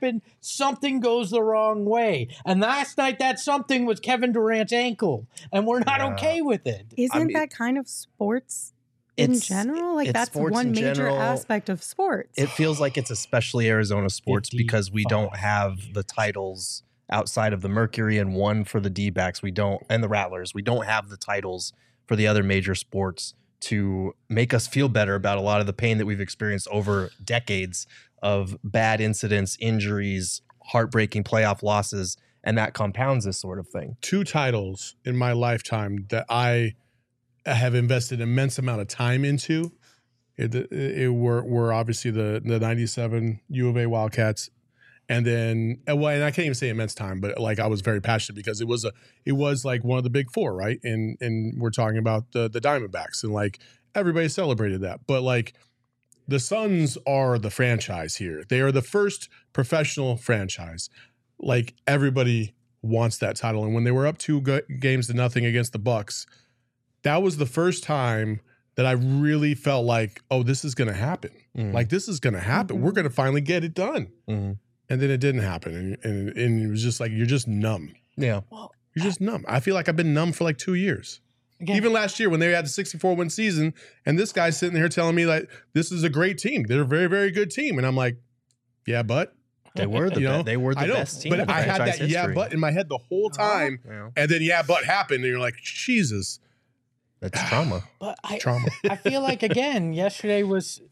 something goes the wrong way. And last night, that something was Kevin Durant's ankle, and we're not Yeah. okay with it. Isn't I mean, that kind of sports in it's- general? Like it's that's sports one in major general. aspect of sports. It feels like it's especially Arizona sports because we don't fifty-five have the titles outside of the Mercury and one for the D-backs. We don't, and the Rattlers. We don't have the titles for the other major sports to make us feel better about a lot of the pain that we've experienced over decades of bad incidents, injuries, heartbreaking playoff losses, and that compounds this sort of thing. Two titles in my lifetime that I have invested immense amount of time into. It, it, it were were obviously the the ninety-seven U of A Wildcats, and then well, and I can't even say immense time, but like I was very passionate because it was a it was like one of the big four, right? And and we're talking about the the Diamondbacks, and like everybody celebrated that, but like the Suns are the franchise here. They are the first professional franchise. Like everybody wants that title, and when they were up two go- games to nothing against the Bucks, that was the first time that I really felt like, oh, this is going to happen. Mhm. Like this is going to happen. Mhm. We're going to finally get it done. Mhm. And then it didn't happen, and, and and it was just like you're just numb. Yeah. Well, You're just numb. I feel like I've been numb for like two years. again, Even last year when they had the sixty-four win season, and this guy's sitting here telling me like this is a great team. They're a very very good team, and I'm like, yeah, but They were the You know, be- they were the I know, best team. but in I had franchise that yeah, history. but in my head the whole time, Yeah. and then yeah, but happened, and you're like, Jesus, That's trauma. but I, trauma. I feel like again, yesterday was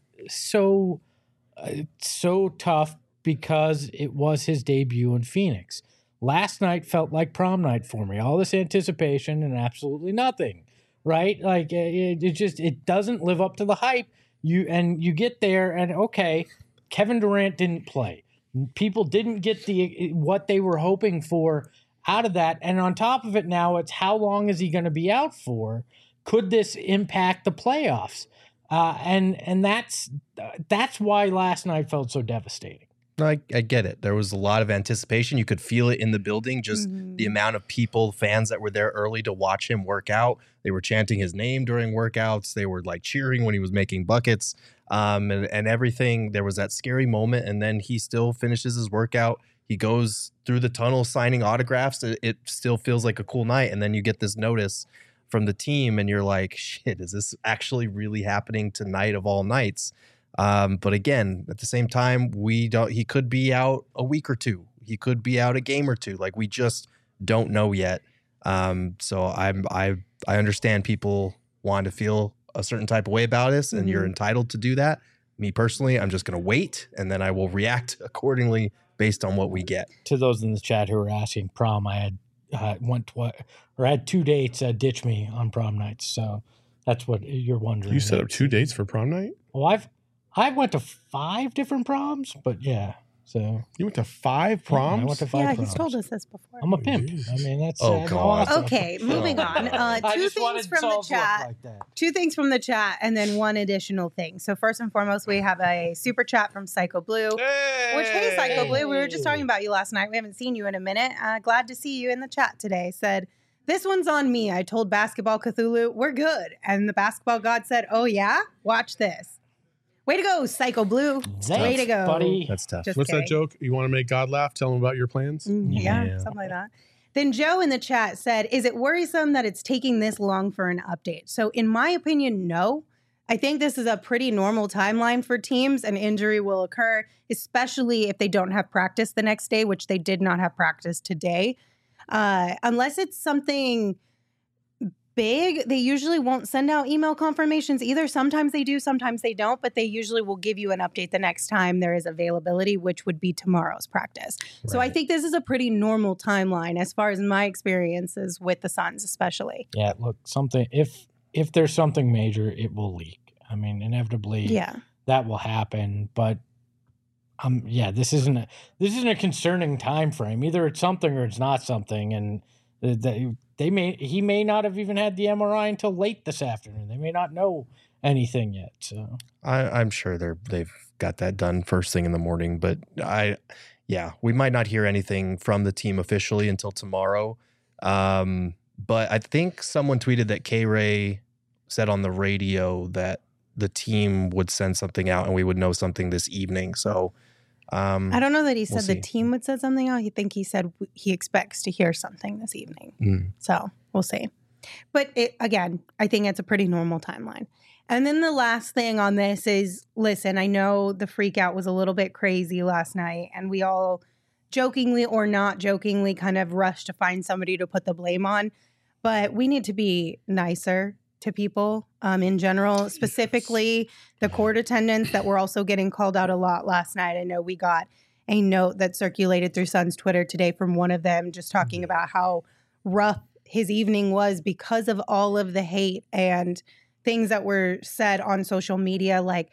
so uh, so tough because it was his debut in Phoenix. Last night felt like prom night for me. All this anticipation and absolutely nothing, right? Like it, it just it doesn't live up to the hype. You and you get there and okay, Kevin Durant didn't play. People didn't get the what they were hoping for out of that. And on top of it now, it's how long is he going to be out for? Could this impact the playoffs? Uh, and and that's that's why last night felt so devastating. No, I, I get it. There was a lot of anticipation. You could feel it in the building, just Mhm. the amount of people, fans that were there early to watch him work out. They were chanting his name during workouts. They were like cheering when he was making buckets um, and, and everything. There was that scary moment. And then he still finishes his workout. He goes through the tunnel signing autographs. It, it still feels like a cool night. And then you get this notice from the team and you're like, shit, is this actually really happening tonight of all nights? Um, but again, at the same time, we don't. He could be out a week or two. He could be out a game or two. Like we just don't know yet. Um, so I'm I I understand people want to feel a certain type of way about this, and you're Mhm. entitled to do that. Me personally, I'm just going to wait, and then I will react accordingly based on what we get. To those in the chat who were asking prom, I had uh, went twi- or had two dates uh, ditch me on prom nights. So that's what you're wondering. You set up two dates for prom night? Well, I've I went to five different proms, but yeah. So You went to five yeah, proms? I went to five Yeah, proms. he's told us this before. I'm a pimp. Jesus. I mean, that's Oh, uh, God. awesome. Okay, moving on. Uh, I two just things wanted from the Saul's look chat. like that. Two things from the chat, and then one additional thing. So first and foremost, we have a super chat from Psycho Blue. Which, hey, Psycho Blue, we were just talking about you last night. We haven't seen you in a minute. Uh, glad to see you in the chat today. Said, this one's on me. I told Basketball Cthulhu, we're good. And the basketball god said, oh, yeah? Watch this. Way to go, Psycho Blue. Thanks, Way to go. buddy. That's tough. Just What's that kidding. joke? You want to make God laugh? Tell him about your plans? Mm, yeah, Yeah. something like that. Then Joe in the chat said, is it worrisome that it's taking this long for an update? So in my opinion, no. I think this is a pretty normal timeline for teams. An injury will occur, especially if they don't have practice the next day, which they did not have practice today. Uh, unless it's something big, they usually won't send out email confirmations either. Sometimes they do, sometimes they don't, but they usually will give you an update the next time there is availability, which would be tomorrow's practice. So I Right. think this is a pretty normal timeline as far as my experiences with the Suns, especially. Yeah, look, something if if there's something major, it will leak. I mean, inevitably, Yeah. that will happen. But um, yeah, this isn't a, this isn't a concerning time frame. Either it's something or it's not something, and uh, they, they may he may not have even had the M R I until late this afternoon. They may not know anything yet. So I, I'm sure they're they've got that done first thing in the morning. But I, yeah, we might not hear anything from the team officially until tomorrow. Um, but I think someone tweeted that K-Ray said on the radio that the team would send something out and we would know something this evening. So Um, I don't know that he said we'll the see. team would say something. I think he said he expects to hear something this evening. Mm. So we'll see. But it, again, I think it's a pretty normal timeline. And then the last thing on this is, listen, I know the freak out was a little bit crazy last night, and we all jokingly or not jokingly kind of rushed to find somebody to put the blame on. But we need to be nicer to people um, in general, specifically the court attendants that were also getting called out a lot last night. I know we got a note that circulated through Sun's Twitter today from one of them just talking about how rough his evening was because of all of the hate and things that were said on social media. Like,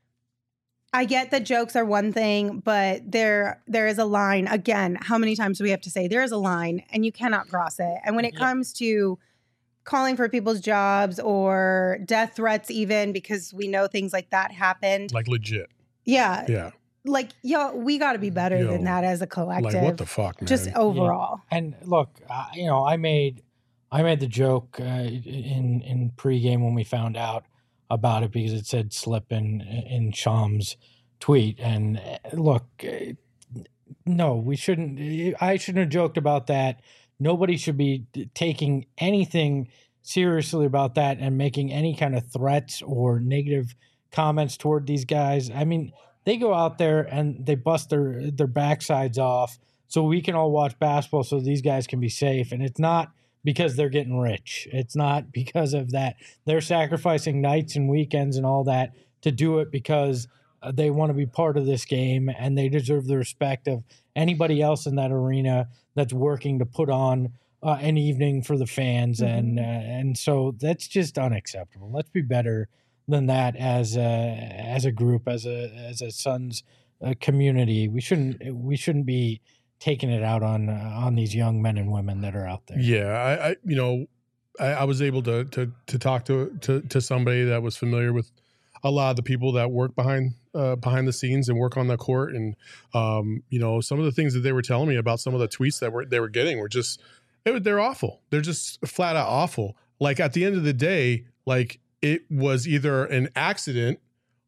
I get that jokes are one thing, but there there is a line. Again, how many times do we have to say there is a line and you cannot cross it? And when it Yeah. comes to calling for people's jobs or death threats, even because we know things like that happened. Like legit. Yeah. Yeah. Like, yo, we got to be better Yo, than that as a collective. Like what the fuck, man? Just overall. And look, uh, you know, I made I made the joke uh, in in pregame when we found out about it because it said slip in in Sham's tweet. And uh, look, uh, no, we shouldn't. I shouldn't have joked about that. Nobody should be taking anything seriously about that and making any kind of threats or negative comments toward these guys. I mean, they go out there and they bust their their backsides off so we can all watch basketball so these guys can be safe. And it's not because they're getting rich. It's not because of that. They're sacrificing nights and weekends and all that to do it because uh, they want to be part of this game, and they deserve the respect of anybody else in that arena that's working to put on uh, an evening for the fans. Mm-hmm. And uh, and so that's just unacceptable. Let's be better than that as a, as a group, as a as a Suns uh, community. We shouldn't we shouldn't be taking it out on uh, on these young men and women that are out there. Yeah, I, I you know, I, I was able to to to talk to, to to somebody that was familiar with a lot of the people that work behind uh, behind the scenes and work on the court, and um, you know, some of the things that they were telling me about some of the tweets that were they were getting were just it, was- they're awful. They're just flat out awful. Like at the end of the day, like it was either an accident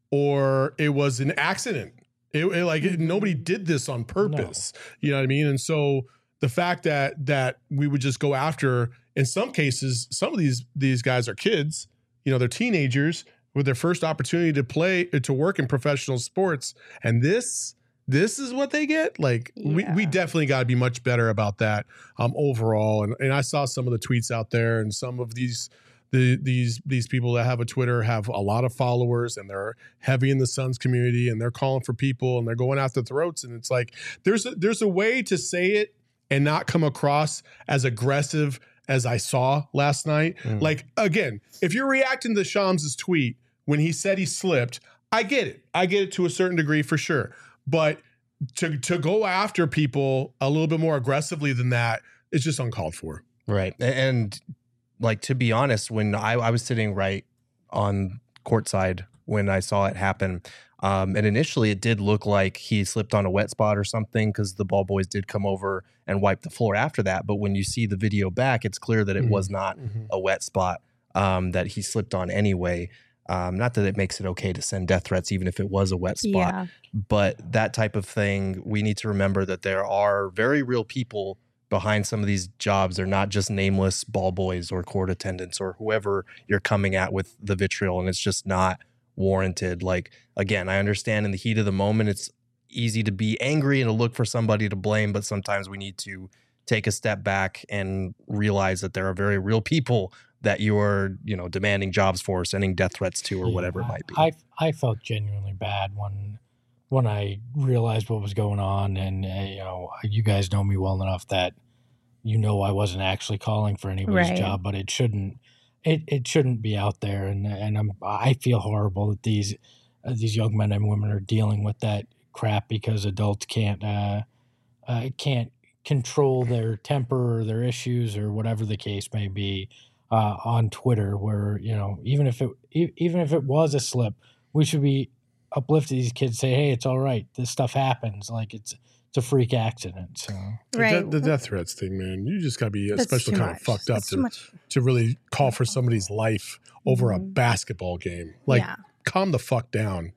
or it was an accident. It, it like it, nobody did this on purpose. You know what I mean? And so the fact that that we would just go after, in some cases, some of these these guys are kids. You know, they're teenagers with their first opportunity to play to work in professional sports, and this this is what they get. Like we we Yeah. definitely got to be much better about that um, overall. And and I saw some of the tweets out there, and some of these. The, these these people that have a Twitter have a lot of followers, and they're heavy in the Suns community, and they're calling for people, and they're going after throats, and it's like there's a, there's a way to say it and not come across as aggressive as I saw last night. Mm. Like again, if you're reacting to Shams' tweet when he said he slipped, I get it. I get it to a certain degree for sure, but to to go after people a little bit more aggressively than that is just uncalled for. Right. A- And like, to be honest, when I, I was sitting right on courtside when I saw it happen, um, and initially it did look like he slipped on a wet spot or something because the ball boys did come over and wipe the floor after that. But when you see the video back, it's clear that it was not a wet spot um, that he slipped on anyway. Um, not that it makes it okay to send death threats, even if it was a wet spot. Yeah. But that type of thing, we need to remember that there are very real people behind some of these jobs. They're not just nameless ball boys or court attendants or whoever you're coming at with the vitriol, and it's just not warranted. Like, again, I understand in the heat of the moment, it's easy to be angry and to look for somebody to blame, but sometimes we need to take a step back and realize that there are very real people that you are, you know, demanding jobs for, sending death threats to, or Yeah, whatever it might be. I I felt genuinely bad when when I realized what was going on, and uh, you know, you guys know me well enough that you know I wasn't actually calling for anybody's Right. job, but it shouldn't it it shouldn't be out there, and and I'm I feel horrible that these uh, these young men and women are dealing with that crap because adults can't uh, uh, can't control their temper or their issues or whatever the case may be uh, on Twitter. Where, you know, even if it e- even if it was a slip, we should be uplifting these kids. Say, hey, it's all right. This stuff happens. Like it's it's a freak accident. So Right. The, the death threats thing, man. You just got to be a That's special too kind much. of fucked up That's too to, much. to really call for somebody's life over a Mhm. basketball game. Like, Yeah. calm the fuck down.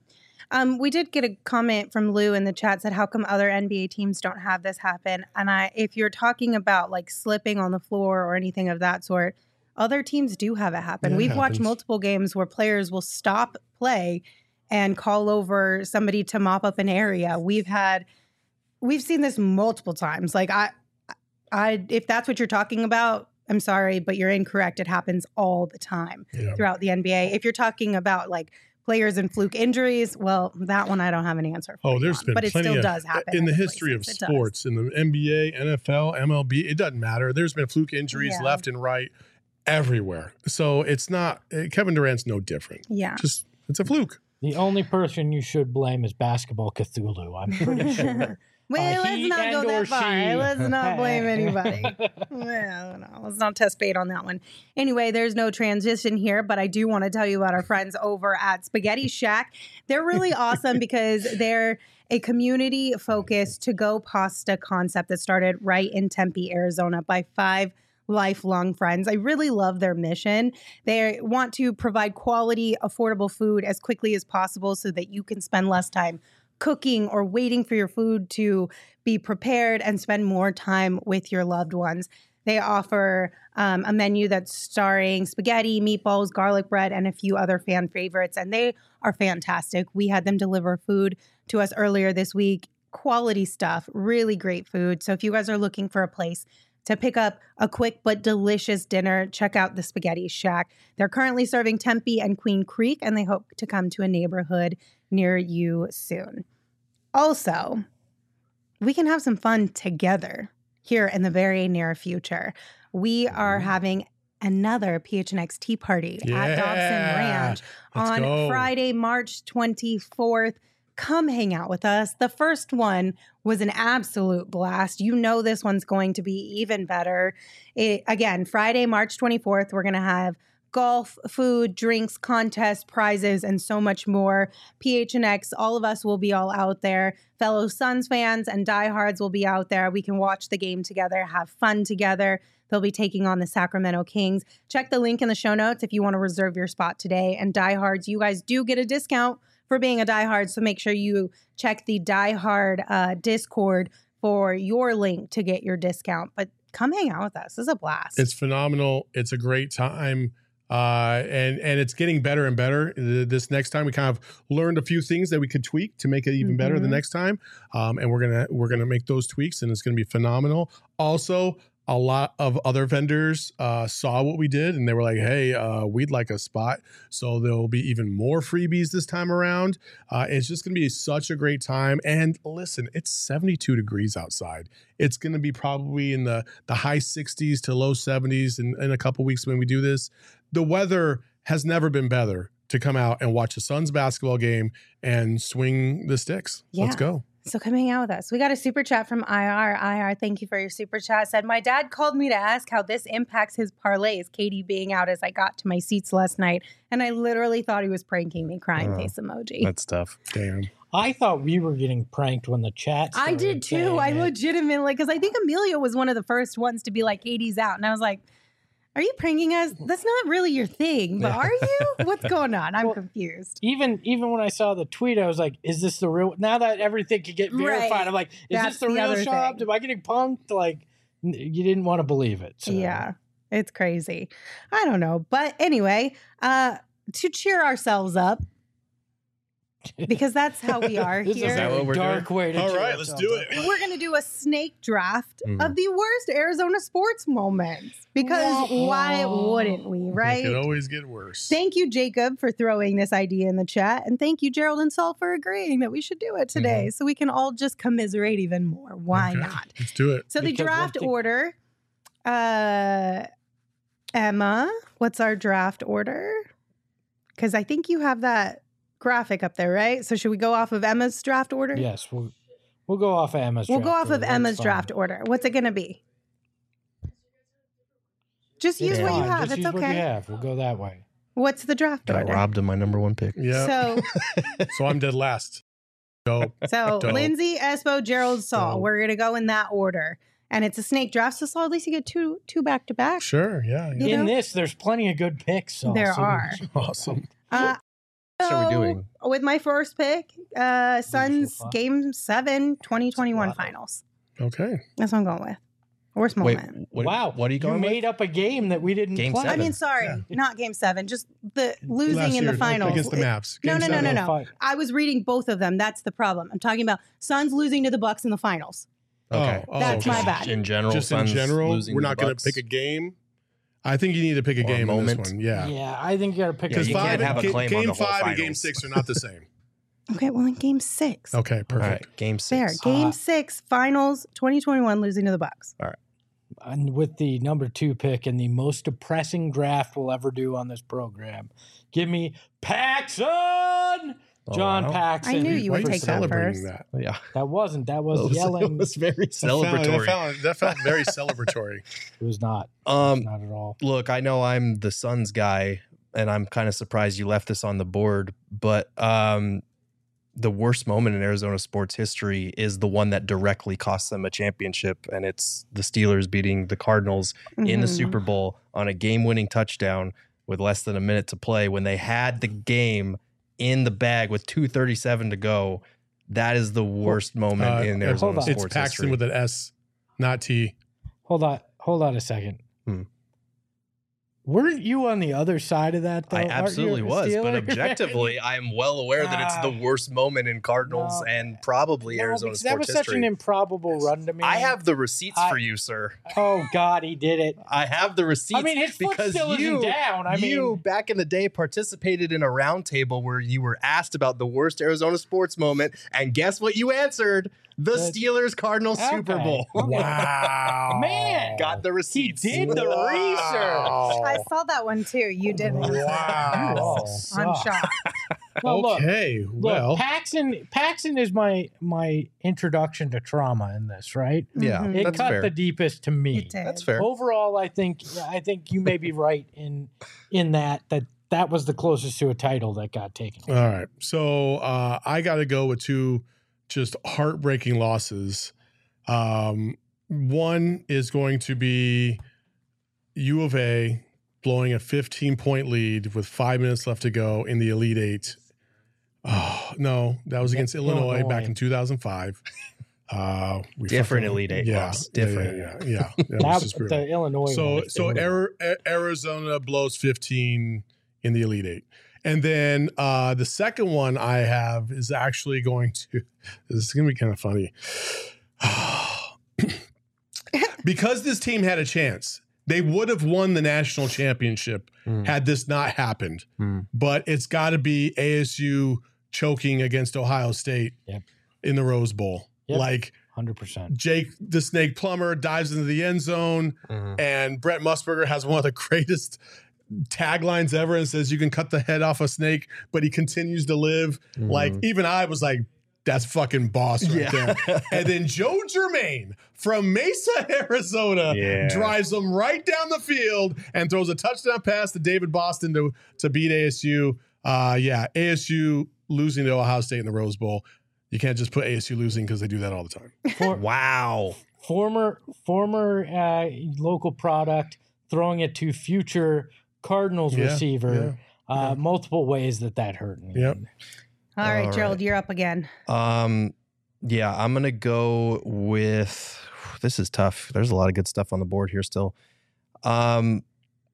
Um, we did get a comment from Lou in the chat said, how come other N B A teams don't have this happen? And I, if you're talking about like slipping on the floor or anything of that sort, other teams do have it happen. Yeah, it We've happens. watched multiple games where players will stop play and call over somebody to mop up an area. We've had, we've seen this multiple times. Like I, I, if that's what you're talking about, I'm sorry, but you're incorrect. It happens all the time Yeah. throughout the N B A. If you're talking about like players and fluke injuries, well, that one I don't have an answer for. Oh, you there's on, been but it plenty still of, does happen in the other history places. of It does. sports, in the N B A, N F L, M L B. It doesn't matter. There's been fluke injuries Yeah. left and right everywhere. So it's not eh, Kevin Durant's no different. Yeah. Just it's a fluke. The only person you should blame is basketball Cthulhu. I'm pretty sure. Well, Uh, let's he not go and or that far. she. Let's not blame anybody. Well, no, let's not test bait on that one. Anyway, there's no transition here, but I do want to tell you about our friends over at Spaghetti Shack. They're really awesome because they're a community-focused to-go pasta concept that started right in Tempe, Arizona by five lifelong friends. I really love their mission. They want to provide quality, affordable food as quickly as possible so that you can spend less time cooking or waiting for your food to be prepared and spend more time with your loved ones. They offer um, a menu that's starring spaghetti, meatballs, garlic bread, and a few other fan favorites, and they are fantastic. We had them deliver food to us earlier this week. Quality stuff, really great food. So if you guys are looking for a place to pick up a quick but delicious dinner, check out the Spaghetti Shack. They're currently serving Tempe and Queen Creek, and they hope to come to a neighborhood near you soon. Also, we can have some fun together here in the very near future. We are having another P H N X tea party at Yeah. Dobson Ranch Let's on go. Friday, March twenty-fourth. Come hang out with us. The first one was an absolute blast. You know this one's going to be even better. It, again, Friday, March twenty-fourth, we're going to have golf, food, drinks, contests, prizes, and so much more. P H N X, all of us will be all out there. Fellow Suns fans and diehards will be out there. We can watch the game together, have fun together. They'll be taking on the Sacramento Kings. Check the link in the show notes if you want to reserve your spot today. And diehards, you guys do get a discount for being a diehard, so make sure you check the diehard uh, Discord for your link to get your discount. But come hang out with us. This is a blast. It's phenomenal. It's a great time. Uh, and and it's getting better and better. This next time, we kind of learned a few things that we could tweak to make it even better the Mhm. next time. Um, and we're gonna we're gonna make those tweaks, and it's gonna be phenomenal. Also, a lot of other vendors uh, saw what we did, and they were like, "Hey, uh, we'd like a spot." So there will be even more freebies this time around. Uh, it's just gonna be such a great time. And listen, it's seventy-two degrees outside. It's gonna be probably in the the high sixties to low seventies in, in a couple weeks when we do this. The weather has never been better to come out and watch a Suns basketball game and swing the sticks. Yeah. Let's go. So come hang out with us. We got a super chat from I R. I R, thank you for your super chat. Said, my dad called me to ask how this impacts his parlays, Katie being out as I got to my seats last night. And I literally thought he was pranking me, crying Oh, face emoji. That's tough. Damn. I thought we were getting pranked when the chat. I started did too. saying I it. legitimately, because I think Amelia was one of the first ones to be like, Katie's out. And I was like, are you pranking us? That's not really your thing, but are you? What's going on? I'm Well, confused. Even even when I saw the tweet, I was like, "Is this the real?" Now that everything can get verified, Right. I'm like, "Is That's this the, the real other shop? thing. Am I getting punked?" Like, n- you didn't want to believe it. So. Yeah, it's crazy. I don't know. But anyway, uh, to cheer ourselves up, because that's how we are This here. is that a what we're dark way to. All cheer right, let's ourselves do up. it. We're going to do a snake draft Mm. of the worst Arizona sports moments. Because Wah, why wah. wouldn't we, It right? could always get worse. Thank you, Jacob, for throwing this idea in the chat. And thank you, Gerald and Saul, for agreeing that we should do it today so we can all just commiserate even more. Why Okay, not? Let's do it. So the Because one draft thing- order, uh, Emma, what's our draft order? Because I think you have that graphic up there, right? So should we go off of Emma's draft order? Yes, we'll we'll go off of Emma's. We'll draft go off of order. That's Emma's fine. draft order. What's it going to be? Just use It's what you fine. have. Just It's use what you okay. have. We'll go that way. What's the draft Got order? robbed of my number one pick. Yeah. So, So I'm dead last. Go. so Dope. Lindsay, Espo, Gerald, Saul. Dope. We're going to go in that order. And it's a snake draft. So, Saul, at least you get two two back to back. Sure. Yeah. yeah. You In know? this, there's plenty of good picks. So There so- are. Awesome. Uh, picks are we doing? With my first pick, uh, Suns fuck. Game seven, twenty twenty-one Wow. finals. Okay. That's what I'm going with. Worst Wait, moment. what, wow. What are you going You with? made up a game that we didn't Game play. I seven. mean, sorry, Yeah. not Game seven, just the losing Last in the year, finals. against the Mavs. No, Game no, no, seven. no, no. Fight. I was reading both of them. That's the problem. I'm talking about Suns losing to the Bucks in the finals. Okay. Oh, oh, That's okay. my bad. In general, Just in Suns general, losing we're to not the going to Bucks. pick a game. I think you need to pick a Or a game in moment. this one. Yeah. Yeah, I think you got to pick Yeah, a you game. can't have a ga- claim on game the whole five and game finals. six are not the same. Okay, well, in Game six. Okay, All perfect. right, game Fair. six. Game Uh, six, finals, twenty twenty-one, losing to the Bucks. And with the number two pick and the most depressing draft we'll ever do on this program, give me Paxson, John wow. Paxson. I knew you Why would are you take that celebrating first. that? Yeah, That wasn't. That was That was- yelling. It was very That felt- celebratory. That felt, that felt very celebratory. It was not. Um, Not at all. look, I know I'm the Suns guy, and I'm kind of surprised you left this on the board, but um, the worst moment in Arizona sports history is the one that directly cost them a championship, and it's the Steelers beating the Cardinals in the Mhm. Super Bowl on a game-winning touchdown with less than a minute to play when they had the game in the bag with two thirty-seven to go. That is the worst moment Uh, in uh, Arizona hold on. sports It's Paxton history. with an S, not T. Hold on. Hold on a second. Hmm. Weren't you on the other side of that, though? I Aren't you absolutely a was, but Steeler? objectively, I am well aware that it's the Ah. worst moment in Cardinals No. and probably No, Arizona because that sports was such history. an improbable run to me. I have the receipts I- for you, sir. Oh God, he did it. I have the receipts. I mean, his foot because still you, isn't down. I you mean, back in the day participated in a roundtable where you were asked about the worst Arizona sports moment, and guess what you answered? The The- Steelers Cardinals Okay. Super Bowl. Wow. Man. Got the he receipts. did the research. I saw that one too. You didn't. Wow. all I'm suck. shocked. Well, look, Okay. look, Well, Paxson. Paxson is my my introduction to trauma in this, right? Yeah, Mhm. It that's cut fair. the deepest to me. It did. That's fair. Overall, I think I think you may be right in in that that that was the closest to a title that got taken. all right. So uh, I got to go with two just heartbreaking losses. Um, one is going to be U of A blowing a fifteen point lead with five minutes left to go in the Elite Eight. Oh, no, that was against Illinois, Illinois. back in two thousand five. Uh, we Different fucking- Elite Eight yeah, loss. yeah, Different. Yeah, yeah, yeah. That That was just brutal. the Illinois. So one. so Ari- A- Arizona blows fifteen in the Elite Eight. And then uh, the second one I have is actually going to this is going to be kind of funny. Because this team had a chance. They would have won the national championship Mm. had this not happened. Mm. But it's got to be A S U choking against Ohio State Yep. in the Rose Bowl. Yep. Like Hundred percent. Jake the Snake Plummer dives into the end zone, Mhm. and Brett Musburger has one of the greatest taglines ever and says, "You can cut the head off a snake, but he continues to live." Like, Mhm. even I was like, that's fucking boss right Yeah. there. And then Joe Germain from Mesa, Arizona, Yeah. drives them right down the field and throws a touchdown pass to David Boston to, to beat A S U. Uh, yeah, A S U losing to Ohio State in the Rose Bowl. You can't just put A S U losing because they do that all the time. For, Wow. former former uh, local product throwing it to future Cardinals Yeah, receiver. yeah, uh, yeah. Multiple ways that that hurt me. Yep. All right, All Gerald, right. you're up again. Um, yeah, I'm gonna go with. This is tough. There's a lot of good stuff on the board here still. Um,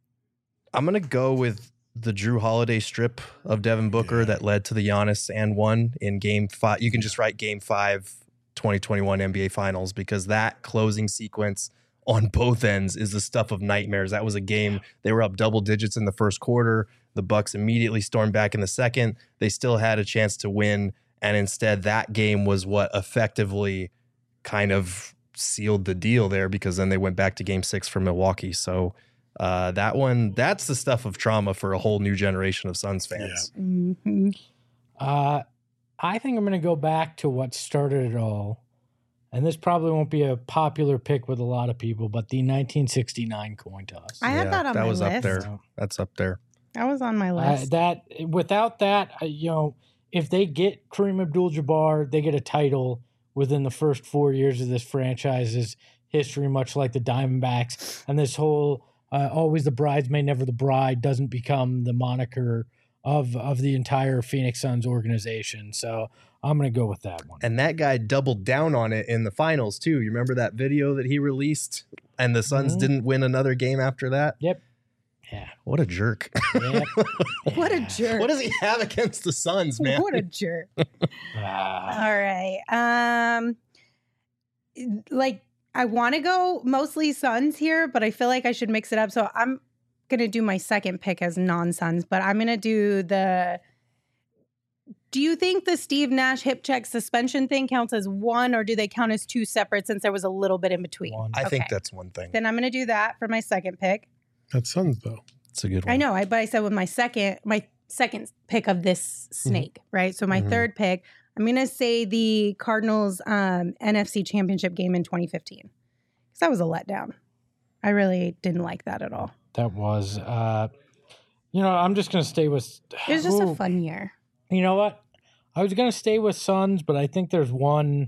I'm gonna go with the Drew Holiday strip of Devin Booker Yeah. that led to the Giannis and one in Game Five. You can just write Game Five, twenty twenty-one N B A Finals, because that closing sequence on both ends is the stuff of nightmares. That was a game. They were up double digits in the first quarter. The Bucks immediately stormed back in the second. They still had a chance to win, and instead that game was what effectively kind of sealed the deal there, because then they went back to Game Six for Milwaukee. So uh, that one, that's the stuff of trauma for a whole new generation of Suns fans. Mhm. Uh, I think I'm going to go back to what started it all. And this probably won't be a popular pick with a lot of people, but the nineteen sixty-nine coin toss. I had Yeah, that on that my was up list. there. So, That's up there. That was on my uh, list. that without that, uh, you know, if they get Kareem Abdul-Jabbar, they get a title within the first four years of this franchise's history, much like the Diamondbacks. And this whole uh, always the bridesmaid, never the bride doesn't become the moniker of of the entire Phoenix Suns organization. So I'm going to go with that one. And that guy doubled down on it in the finals too. You remember that video that he released, and the Suns Mhm. didn't win another game after that? Yep. Yeah. What a jerk. Yep. What a Yeah. jerk. What does he have against the Suns, man? What a jerk. Ah. All right. Um like I want to go mostly Suns here, but I feel like I should mix it up. So I'm going to do my second pick as non-Suns, but I'm going to do the Do you think the Steve Nash hip check suspension thing counts as one, or do they count as two separate since there was a little bit in between? One. I think Okay. that's one thing. Then I'm going to do that for my second pick. That's Suns though. It's a good one. I know, I but I said with my second my second pick of this snake, right? So my Mhm. third pick, I'm gonna say the Cardinals um, N F C Championship game in twenty fifteen, because that was a letdown. I really didn't like that at all. That was, uh, you know, I'm just going to stay with. It was just Ooh, a fun year. You know what? I was going to stay with Suns, but I think there's one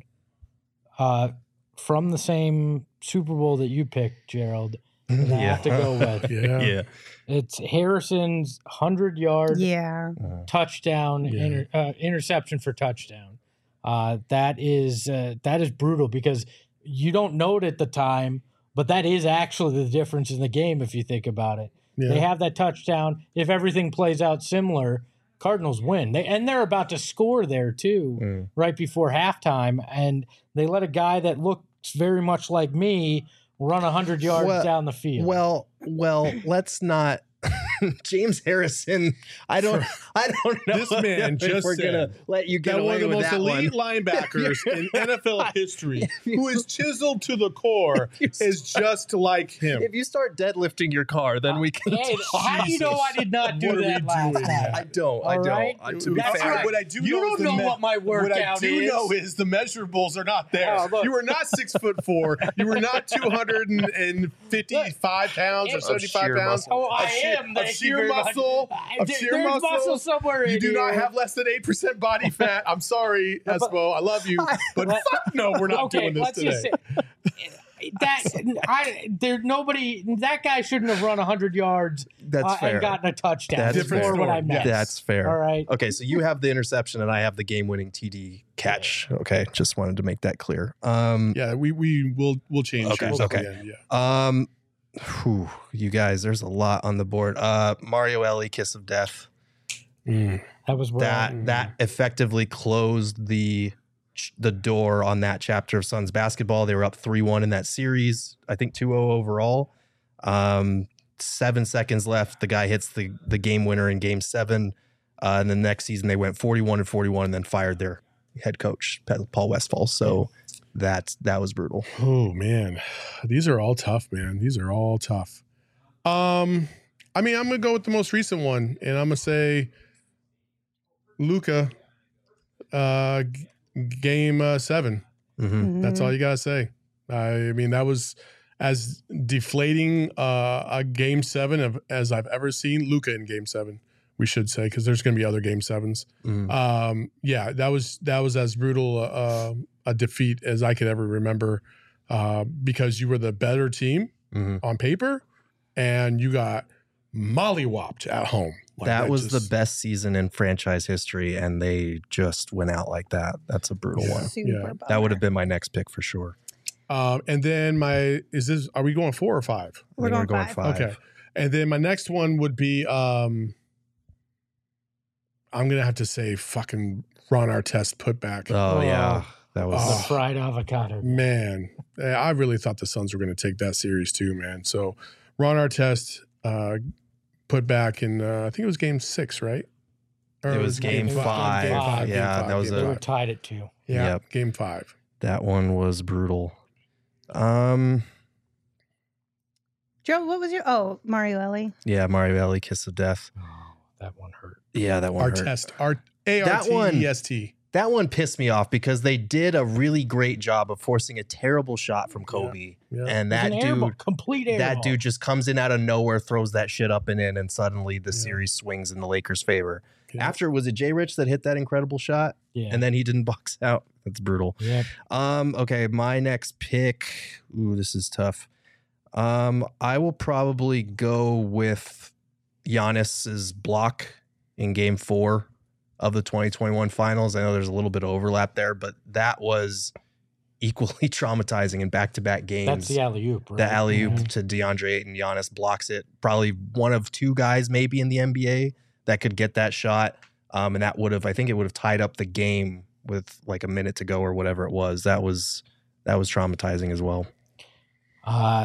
uh, from the same Super Bowl that you picked, Gerald. that I have to go with. Yeah. Yeah. It's Harrison's hundred yard Yeah, touchdown, Yeah. inter, uh, interception for touchdown. Uh, that is uh, that is brutal because you don't know it at the time, but that is actually the difference in the game if you think about it. Yeah. They have that touchdown. If everything plays out similar, Cardinals win. They and they're about to score there too, Mm. right before halftime, and they let a guy that looks very much like me run hundred yards Well- down the field. Well, well, let's not. James Harrison. I don't. I don't know. This man if just we're gonna said let you get That one away of the with most that elite one. linebackers in N F L history, who is chiseled to the core, is just like him. If you start deadlifting your car, then we can. hey, how do you know I did not do What are we that last doing? night? I don't. I All don't. right. Uh, to be That's fair, right. What I do You know don't is the know me- what my What I workout do is. know is the measurables are not there. Oh, look. You were not six foot four. You were not two hundred fifty-five pounds or Of seventy-five sheer pounds. Oh, I of sheer, am. Of Thank you sheer very much. muscle. I- Of there- sheer there's muscle. muscle somewhere You in do not here. have less than eight percent body fat. I'm sorry, But- Espo. I love you, but Let- fuck no, we're not okay, doing this let's today. just say that I there nobody that guy shouldn't have run hundred yards that's uh, fair. and gotten a touchdown. That's Different fair. what I Yes. meant. That's fair. All right. Okay, so you have the interception and I have the game-winning T D catch. Okay, just wanted to make that clear. Um, Yeah, we we will we'll change. Okay, yours at the okay. end, yeah. um, whew, you guys, there's a lot on the board. Uh, Mario Ellie, Kiss of Death. That was where I- That that effectively closed the the door on that chapter of Suns basketball. They were up three one in that series. I think two oh overall. Um, seven seconds left. The guy hits the the game winner in game seven. Uh, and the next season they went forty-one and forty-one and then fired their head coach, Paul Westphal. So that that was brutal. Oh man, these are all tough, man. These are all tough. Um, I mean, I'm gonna go with the most recent one, and I'm gonna say Luca, uh, g- game uh, seven. Mhm. That's Mm-hmm. all you gotta say. I mean, that was as deflating uh, a game seven of as I've ever seen Luca in game seven. We should say, because there's going to be other game sevens. Mhm. Um, yeah, that was that was as brutal uh, a defeat as I could ever remember, uh, because you were the better team Mhm. on paper, and you got mollywopped at home. Like, that was just- the best season in franchise history, and they just went out like that. That's a brutal Yeah. one. Super Yeah. bummer. That would have been my next pick for sure. Um, and then my is this? Are we going four or five? We're I think going five. Okay. And then my next one would be um I'm gonna have to say fucking Ron Artest putback. Oh, Oh. yeah, that was. the Oh. fried avocado. Man, eh, I really thought the Suns were gonna take that series too, man. So Ron Artest uh put back in uh, I think it was game six, right? Or It was game five. Five. Yeah, that was They a- were tied at two. yeah, Yep. game five. That one was brutal. Um, Joe, what was your oh Mario Ellie? yeah, Mario Ellie, Kiss of Death. Oh, that one hurt. Yeah, that one. hurt. Artest, Art A R T E S T. That one pissed me off because they did a really great job of forcing a terrible shot from Kobe, Yeah. and It was that an air dude, ball, complete air that ball. dude just comes in out of nowhere, throws that shit up and in, and suddenly the Yeah. series swings in the Lakers' favor. Yeah. After was it Jay Rich that hit that incredible shot, Yeah. and then he didn't box out? That's brutal. Yep. Um, okay, my next pick. Ooh, this is tough. Um, I will probably go with Giannis's block in game four of the twenty twenty-one finals. I know there's a little bit of overlap there, but that was equally traumatizing in back-to-back games. That's the alley-oop, right? The alley-oop Mhm. to DeAndre Ayton. Giannis blocks it. Probably one of two guys maybe in the N B A that could get that shot. Um, and that would have, I think it would have tied up the game with like a minute to go or whatever it was. That was, that was traumatizing as well. Uh,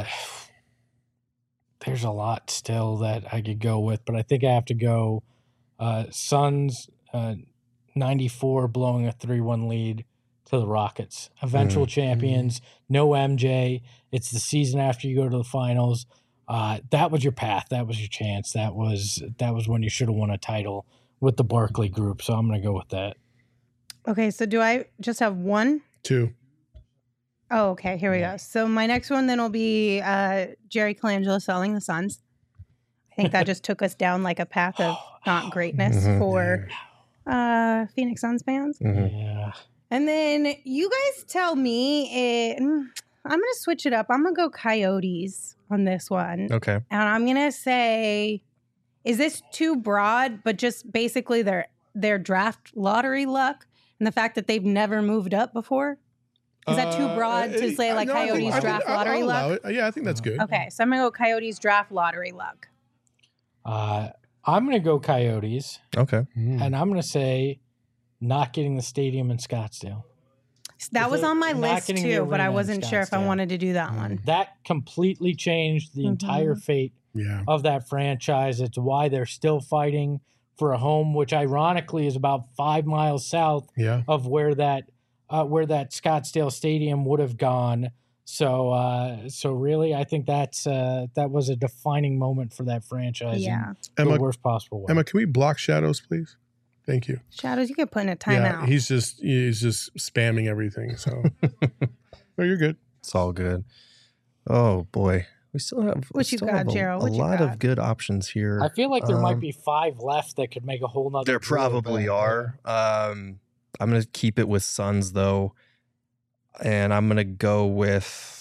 there's a lot still that I could go with, but I think I have to go uh, Suns uh, ninety-four blowing a three one lead to the Rockets. Eventual Mm. champions, no M J. It's the season after you go to the finals. Uh, that was your path. That was your chance. That was that was when you should have won a title with the Barkley group. So I'm going to go with that. Okay, so do I just have one? Two. Oh, okay. Here we Yeah. go. So my next one then will be uh, Jerry Colangelo selling the Suns. I think that just took us down like a path of not greatness Mhm. for uh, Phoenix Suns fans. Mhm. Yeah. And then you guys tell me, it, mm, I'm going to switch it up. I'm going to go Coyotes on this one. Okay. And I'm going to say, is this too broad, but just basically their their draft lottery luck and the fact that they've never moved up before? Is that too broad to say, like, Uh, no, I think- Coyotes I think- draft I'll- lottery I'll allow luck? it. Yeah, I think that's good. Okay, so I'm going to go Coyotes draft lottery luck. Uh, I'm going to go Coyotes, Okay. Mm. and I'm going to say not getting the stadium in Scottsdale. So that Is was it on my not list getting the too, but I arena in wasn't sure if I Scottsdale? wanted to do that one. That completely changed the Mhm. entire fate Yeah. of that franchise. It's why they're still fighting for a home, which ironically is about five miles south Yeah. of where that uh, where that Scottsdale Stadium would have gone. So, uh, so really, I think that's uh, that was a defining moment for that franchise. Yeah. in the Emma, worst possible way. Emma, can we block shadows, please? Thank you. Shadows, you get put in a Yeah, timeout. he's just he's just spamming everything. So, no, you're good. It's all good. Oh boy. We still have, we What you still got, have a, Gerald? a What you lot got? of good options here. I feel like there might Um, be five left that could make a whole nother. There board, probably but, are. Um, I'm going to keep it with Suns, though. And I'm going to go with.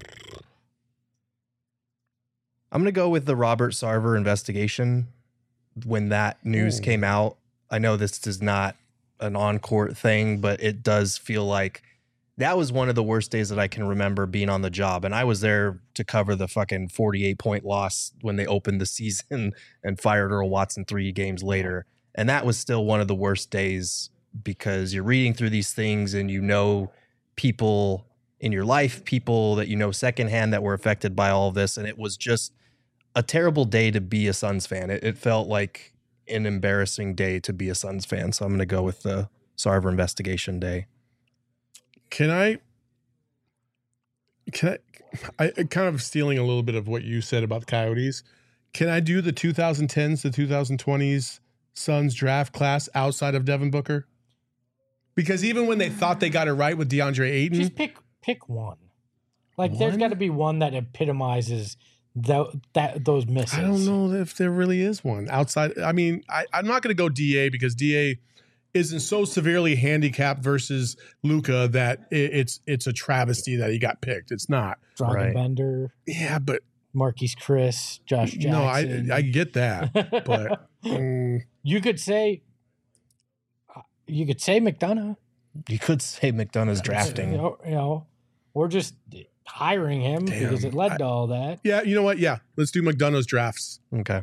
I'm going to go with the Robert Sarver investigation. When that news Ooh. came out, I know this is not an on-court thing, but it does feel like that was one of the worst days that I can remember being on the job. And I was there to cover the fucking forty-eight point loss when they opened the season and fired Earl Watson three games later. And that was still one of the worst days because you're reading through these things and you know people in your life, people that you know secondhand that were affected by all of this. And it was just a terrible day to be a Suns fan. It, it felt like an embarrassing day to be a Suns fan. So I'm going to go with the Sarver investigation day. Can I? Can I? I kind of stealing a little bit of what you said about the Coyotes. Can I do the twenty tens to twenty twenties Suns draft class outside of Devin Booker? Because even when they thought they got it right with DeAndre Ayton, Just pick pick one. Like there's One? got to be one that epitomizes that that those misses. I don't know if there really is one outside. I mean, I, I'm not going to go D A because D A isn't so severely handicapped versus Luka that it, it's it's a travesty that he got picked. It's not. Dragon Right. Bender, Yeah, but Marquise Chris, Josh Jackson. no, I I get that, but mm, you could say uh, you could say McDonough. You could say McDonough's You drafting. know, you know, or just hiring him Damn, because it led I- to all that. yeah, you know what? Yeah, let's do McDonough's drafts. Okay.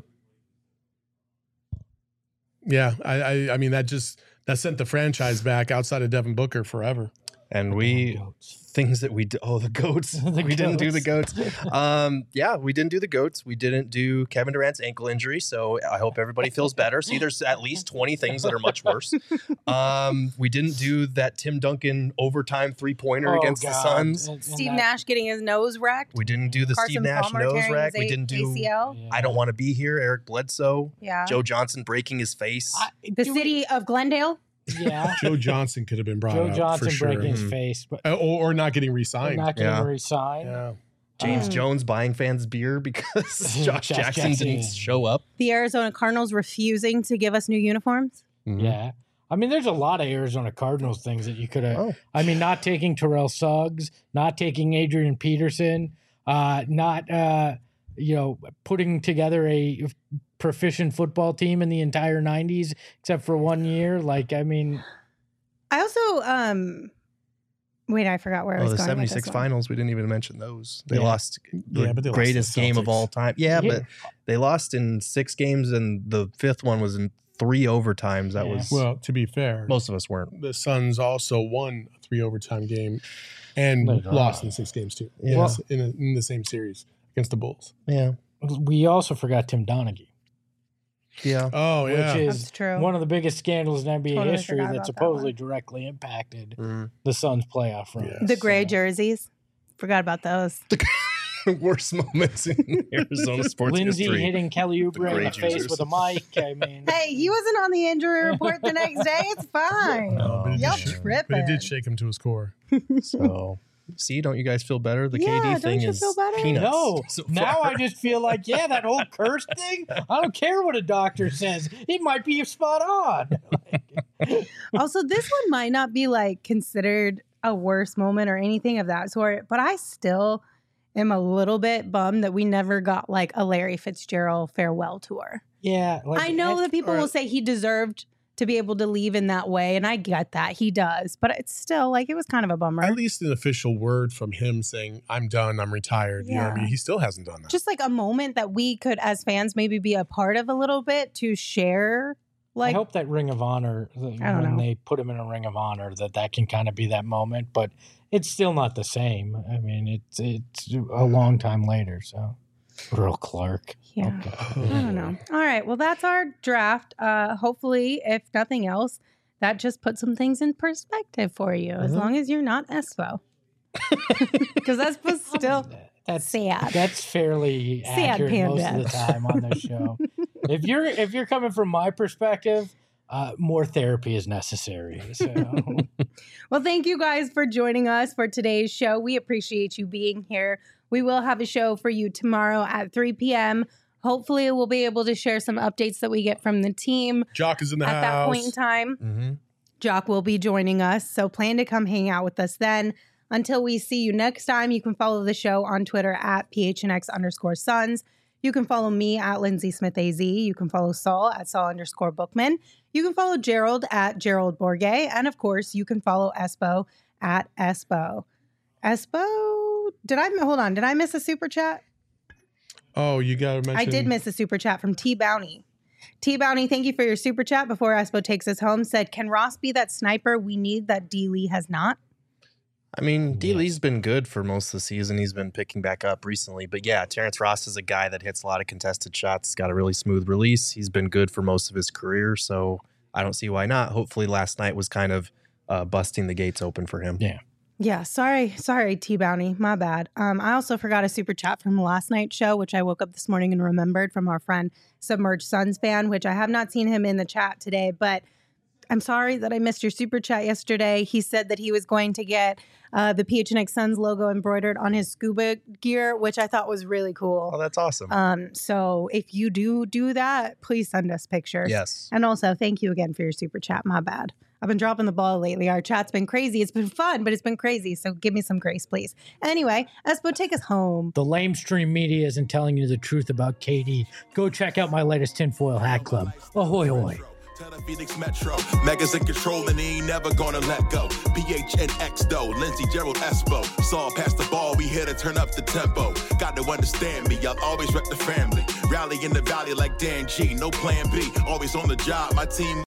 Yeah, I I, I mean that just that sent the franchise back outside of Devin Booker forever. And we Goats. things that we d- oh the goats The we didn't do the goats. goats. Um, yeah, we didn't do the goats. We didn't do Kevin Durant's ankle injury. So I hope everybody feels better. See, there's at least twenty things that are much worse. Um, we didn't do that Tim Duncan overtime three pointer Oh, against the God. Suns. And- and Steve that- Nash getting his nose wracked. We didn't do the Carson Steve Nash Palmer nose tearing rack. his We A- didn't do ACL. Yeah. I don't want to be here. Eric Bledsoe, Yeah. Joe Johnson breaking his face. I- the do we- city of Glendale. Yeah. Joe Johnson could have been brought Joe up Johnson for sure, breaking his Mhm. face, but Uh, or, or not getting we're re-signed. not going to Yeah. resign. Yeah. James Mm. Jones buying fans beer because Josh Josh Jackson, Jackson. didn't show up. The Arizona Cardinals refusing to give us new uniforms. Yeah. I mean, there's a lot of Arizona Cardinals things that you could have. Oh. I mean, not taking Terrell Suggs, not taking Adrian Peterson, uh, not uh, you know, putting together a proficient football team in the entire nineties, except for one year. Like, I mean, I also, um, wait, I forgot where I Oh, was the going. with this seventy-six one. finals, we didn't even mention those. They Yeah. lost the Yeah, but they lost greatest to the game of Celtics. all time. Yeah, Yeah. but they lost in six games, and the fifth one was in three overtimes. That Yeah. was Well, to be fair, most of us weren't. the Suns also won a three overtime game and They lost lost. in six games too. Yeah. Yes, in, a, in the same series against the Bulls. Yeah, we also forgot Tim Donaghy, yeah. Oh yeah, which is That's true. one of the biggest scandals in N B A Totally history forgot that about that supposedly one. directly impacted Mhm. the Suns' playoff run. Yeah. The gray So, jerseys. Forgot about those. Worst moments in Arizona sports Lindsey history. hitting Kelly Oubre in gray the face jerseys. with a mic. I mean, Hey, he wasn't on the injury report the next day. It's fine. No, but it Y'all did shake- tripping. but it did shake him to his core. So, see, don't you guys feel better? The Yeah, K D don't thing you is feel better? peanuts. no. so Now far. I just feel like, yeah, that whole curse thing. I don't care what a doctor says. It might be spot on. Also, this one might not be like considered a worse moment or anything of that sort, but I still am a little bit bummed that we never got like a Larry Fitzgerald farewell tour. Yeah, like, I know it- that people or- will say he deserved to be able to leave in that way, and I get that he does, but it's still like it was kind of a bummer. At least an official word from him saying, "I'm done. I'm retired." You know what I Yeah. mean? He still hasn't done that. Just like a moment that we could, as fans, maybe be a part of a little bit to share. Like, I hope that Ring of Honor, when I don't know. they put him in a Ring of Honor, that that can kind of be that moment. But it's still not the same. I mean, it's it's a long time later. So, Earl Clark. yeah. Okay. I don't know. All right. Well, that's our draft. Uh, hopefully, if nothing else, that just puts some things in perspective for you, as Mhm. long as you're not Espo. Because Espo's still That's sad. That's fairly Sad accurate most panda. of the time on this show. if you're if you're coming from my perspective, uh, more therapy is necessary. So Well, thank you guys for joining us for today's show. We appreciate you being here. We will have a show for you tomorrow at three p.m. Hopefully, we'll be able to share some updates that we get from the team Jock is in the at house. that point in time. Mm-hmm. Jock will be joining us, so plan to come hang out with us then. Until we see you next time, you can follow the show on Twitter at P H N X underscore Suns. You can follow me at Lindsay Smith A Z. You can follow Saul at Saul underscore Bookman. You can follow Gerald at Gerald Bourget. And of course, you can follow Espo at Espo. Espo, did I, hold on, did I miss a super chat? Oh, you got to mention. I did miss a super chat from T Bounty. T Bounty, thank you for your super chat before Espo takes us home. Said, can Ross be that sniper we need that D. Lee has not? I mean, D. Yes. Lee's been good for most of the season. He's been picking back up recently. But yeah, Terrence Ross is a guy that hits a lot of contested shots. He's got a really smooth release. He's been good for most of his career. So I don't see why not. Hopefully last night was kind of uh, busting the gates open for him. Yeah. Yeah, sorry, sorry, T Bounty, my bad. Um, I also forgot a super chat from last night's show, which I woke up this morning and remembered from our friend Submerged Suns fan, which I have not seen him in the chat today, but I'm sorry that I missed your super chat yesterday. He said that he was going to get uh, the P H N X Suns logo embroidered on his scuba gear, which I thought was really cool. Oh, that's awesome. Um, so if you do do that, please send us pictures. yes. And also, thank you again for your super chat. My bad. I've been dropping the ball lately. Our chat's been crazy. It's been fun, but it's been crazy. So give me some grace, please. Anyway, Espo, take us home. The lamestream media isn't telling you the truth about K D. Go check out my latest tinfoil hat club. Ahoy, ahoy. Tell the Phoenix Metro, Megas in control and he ain't never gonna let go. P H N X though, Lindsey, Gerald, Espo. Saw past the ball, we here to turn up the tempo. Got to understand me, I'll always rep the family. Rally in the valley like Dan G, no plan B. Always on the job, my team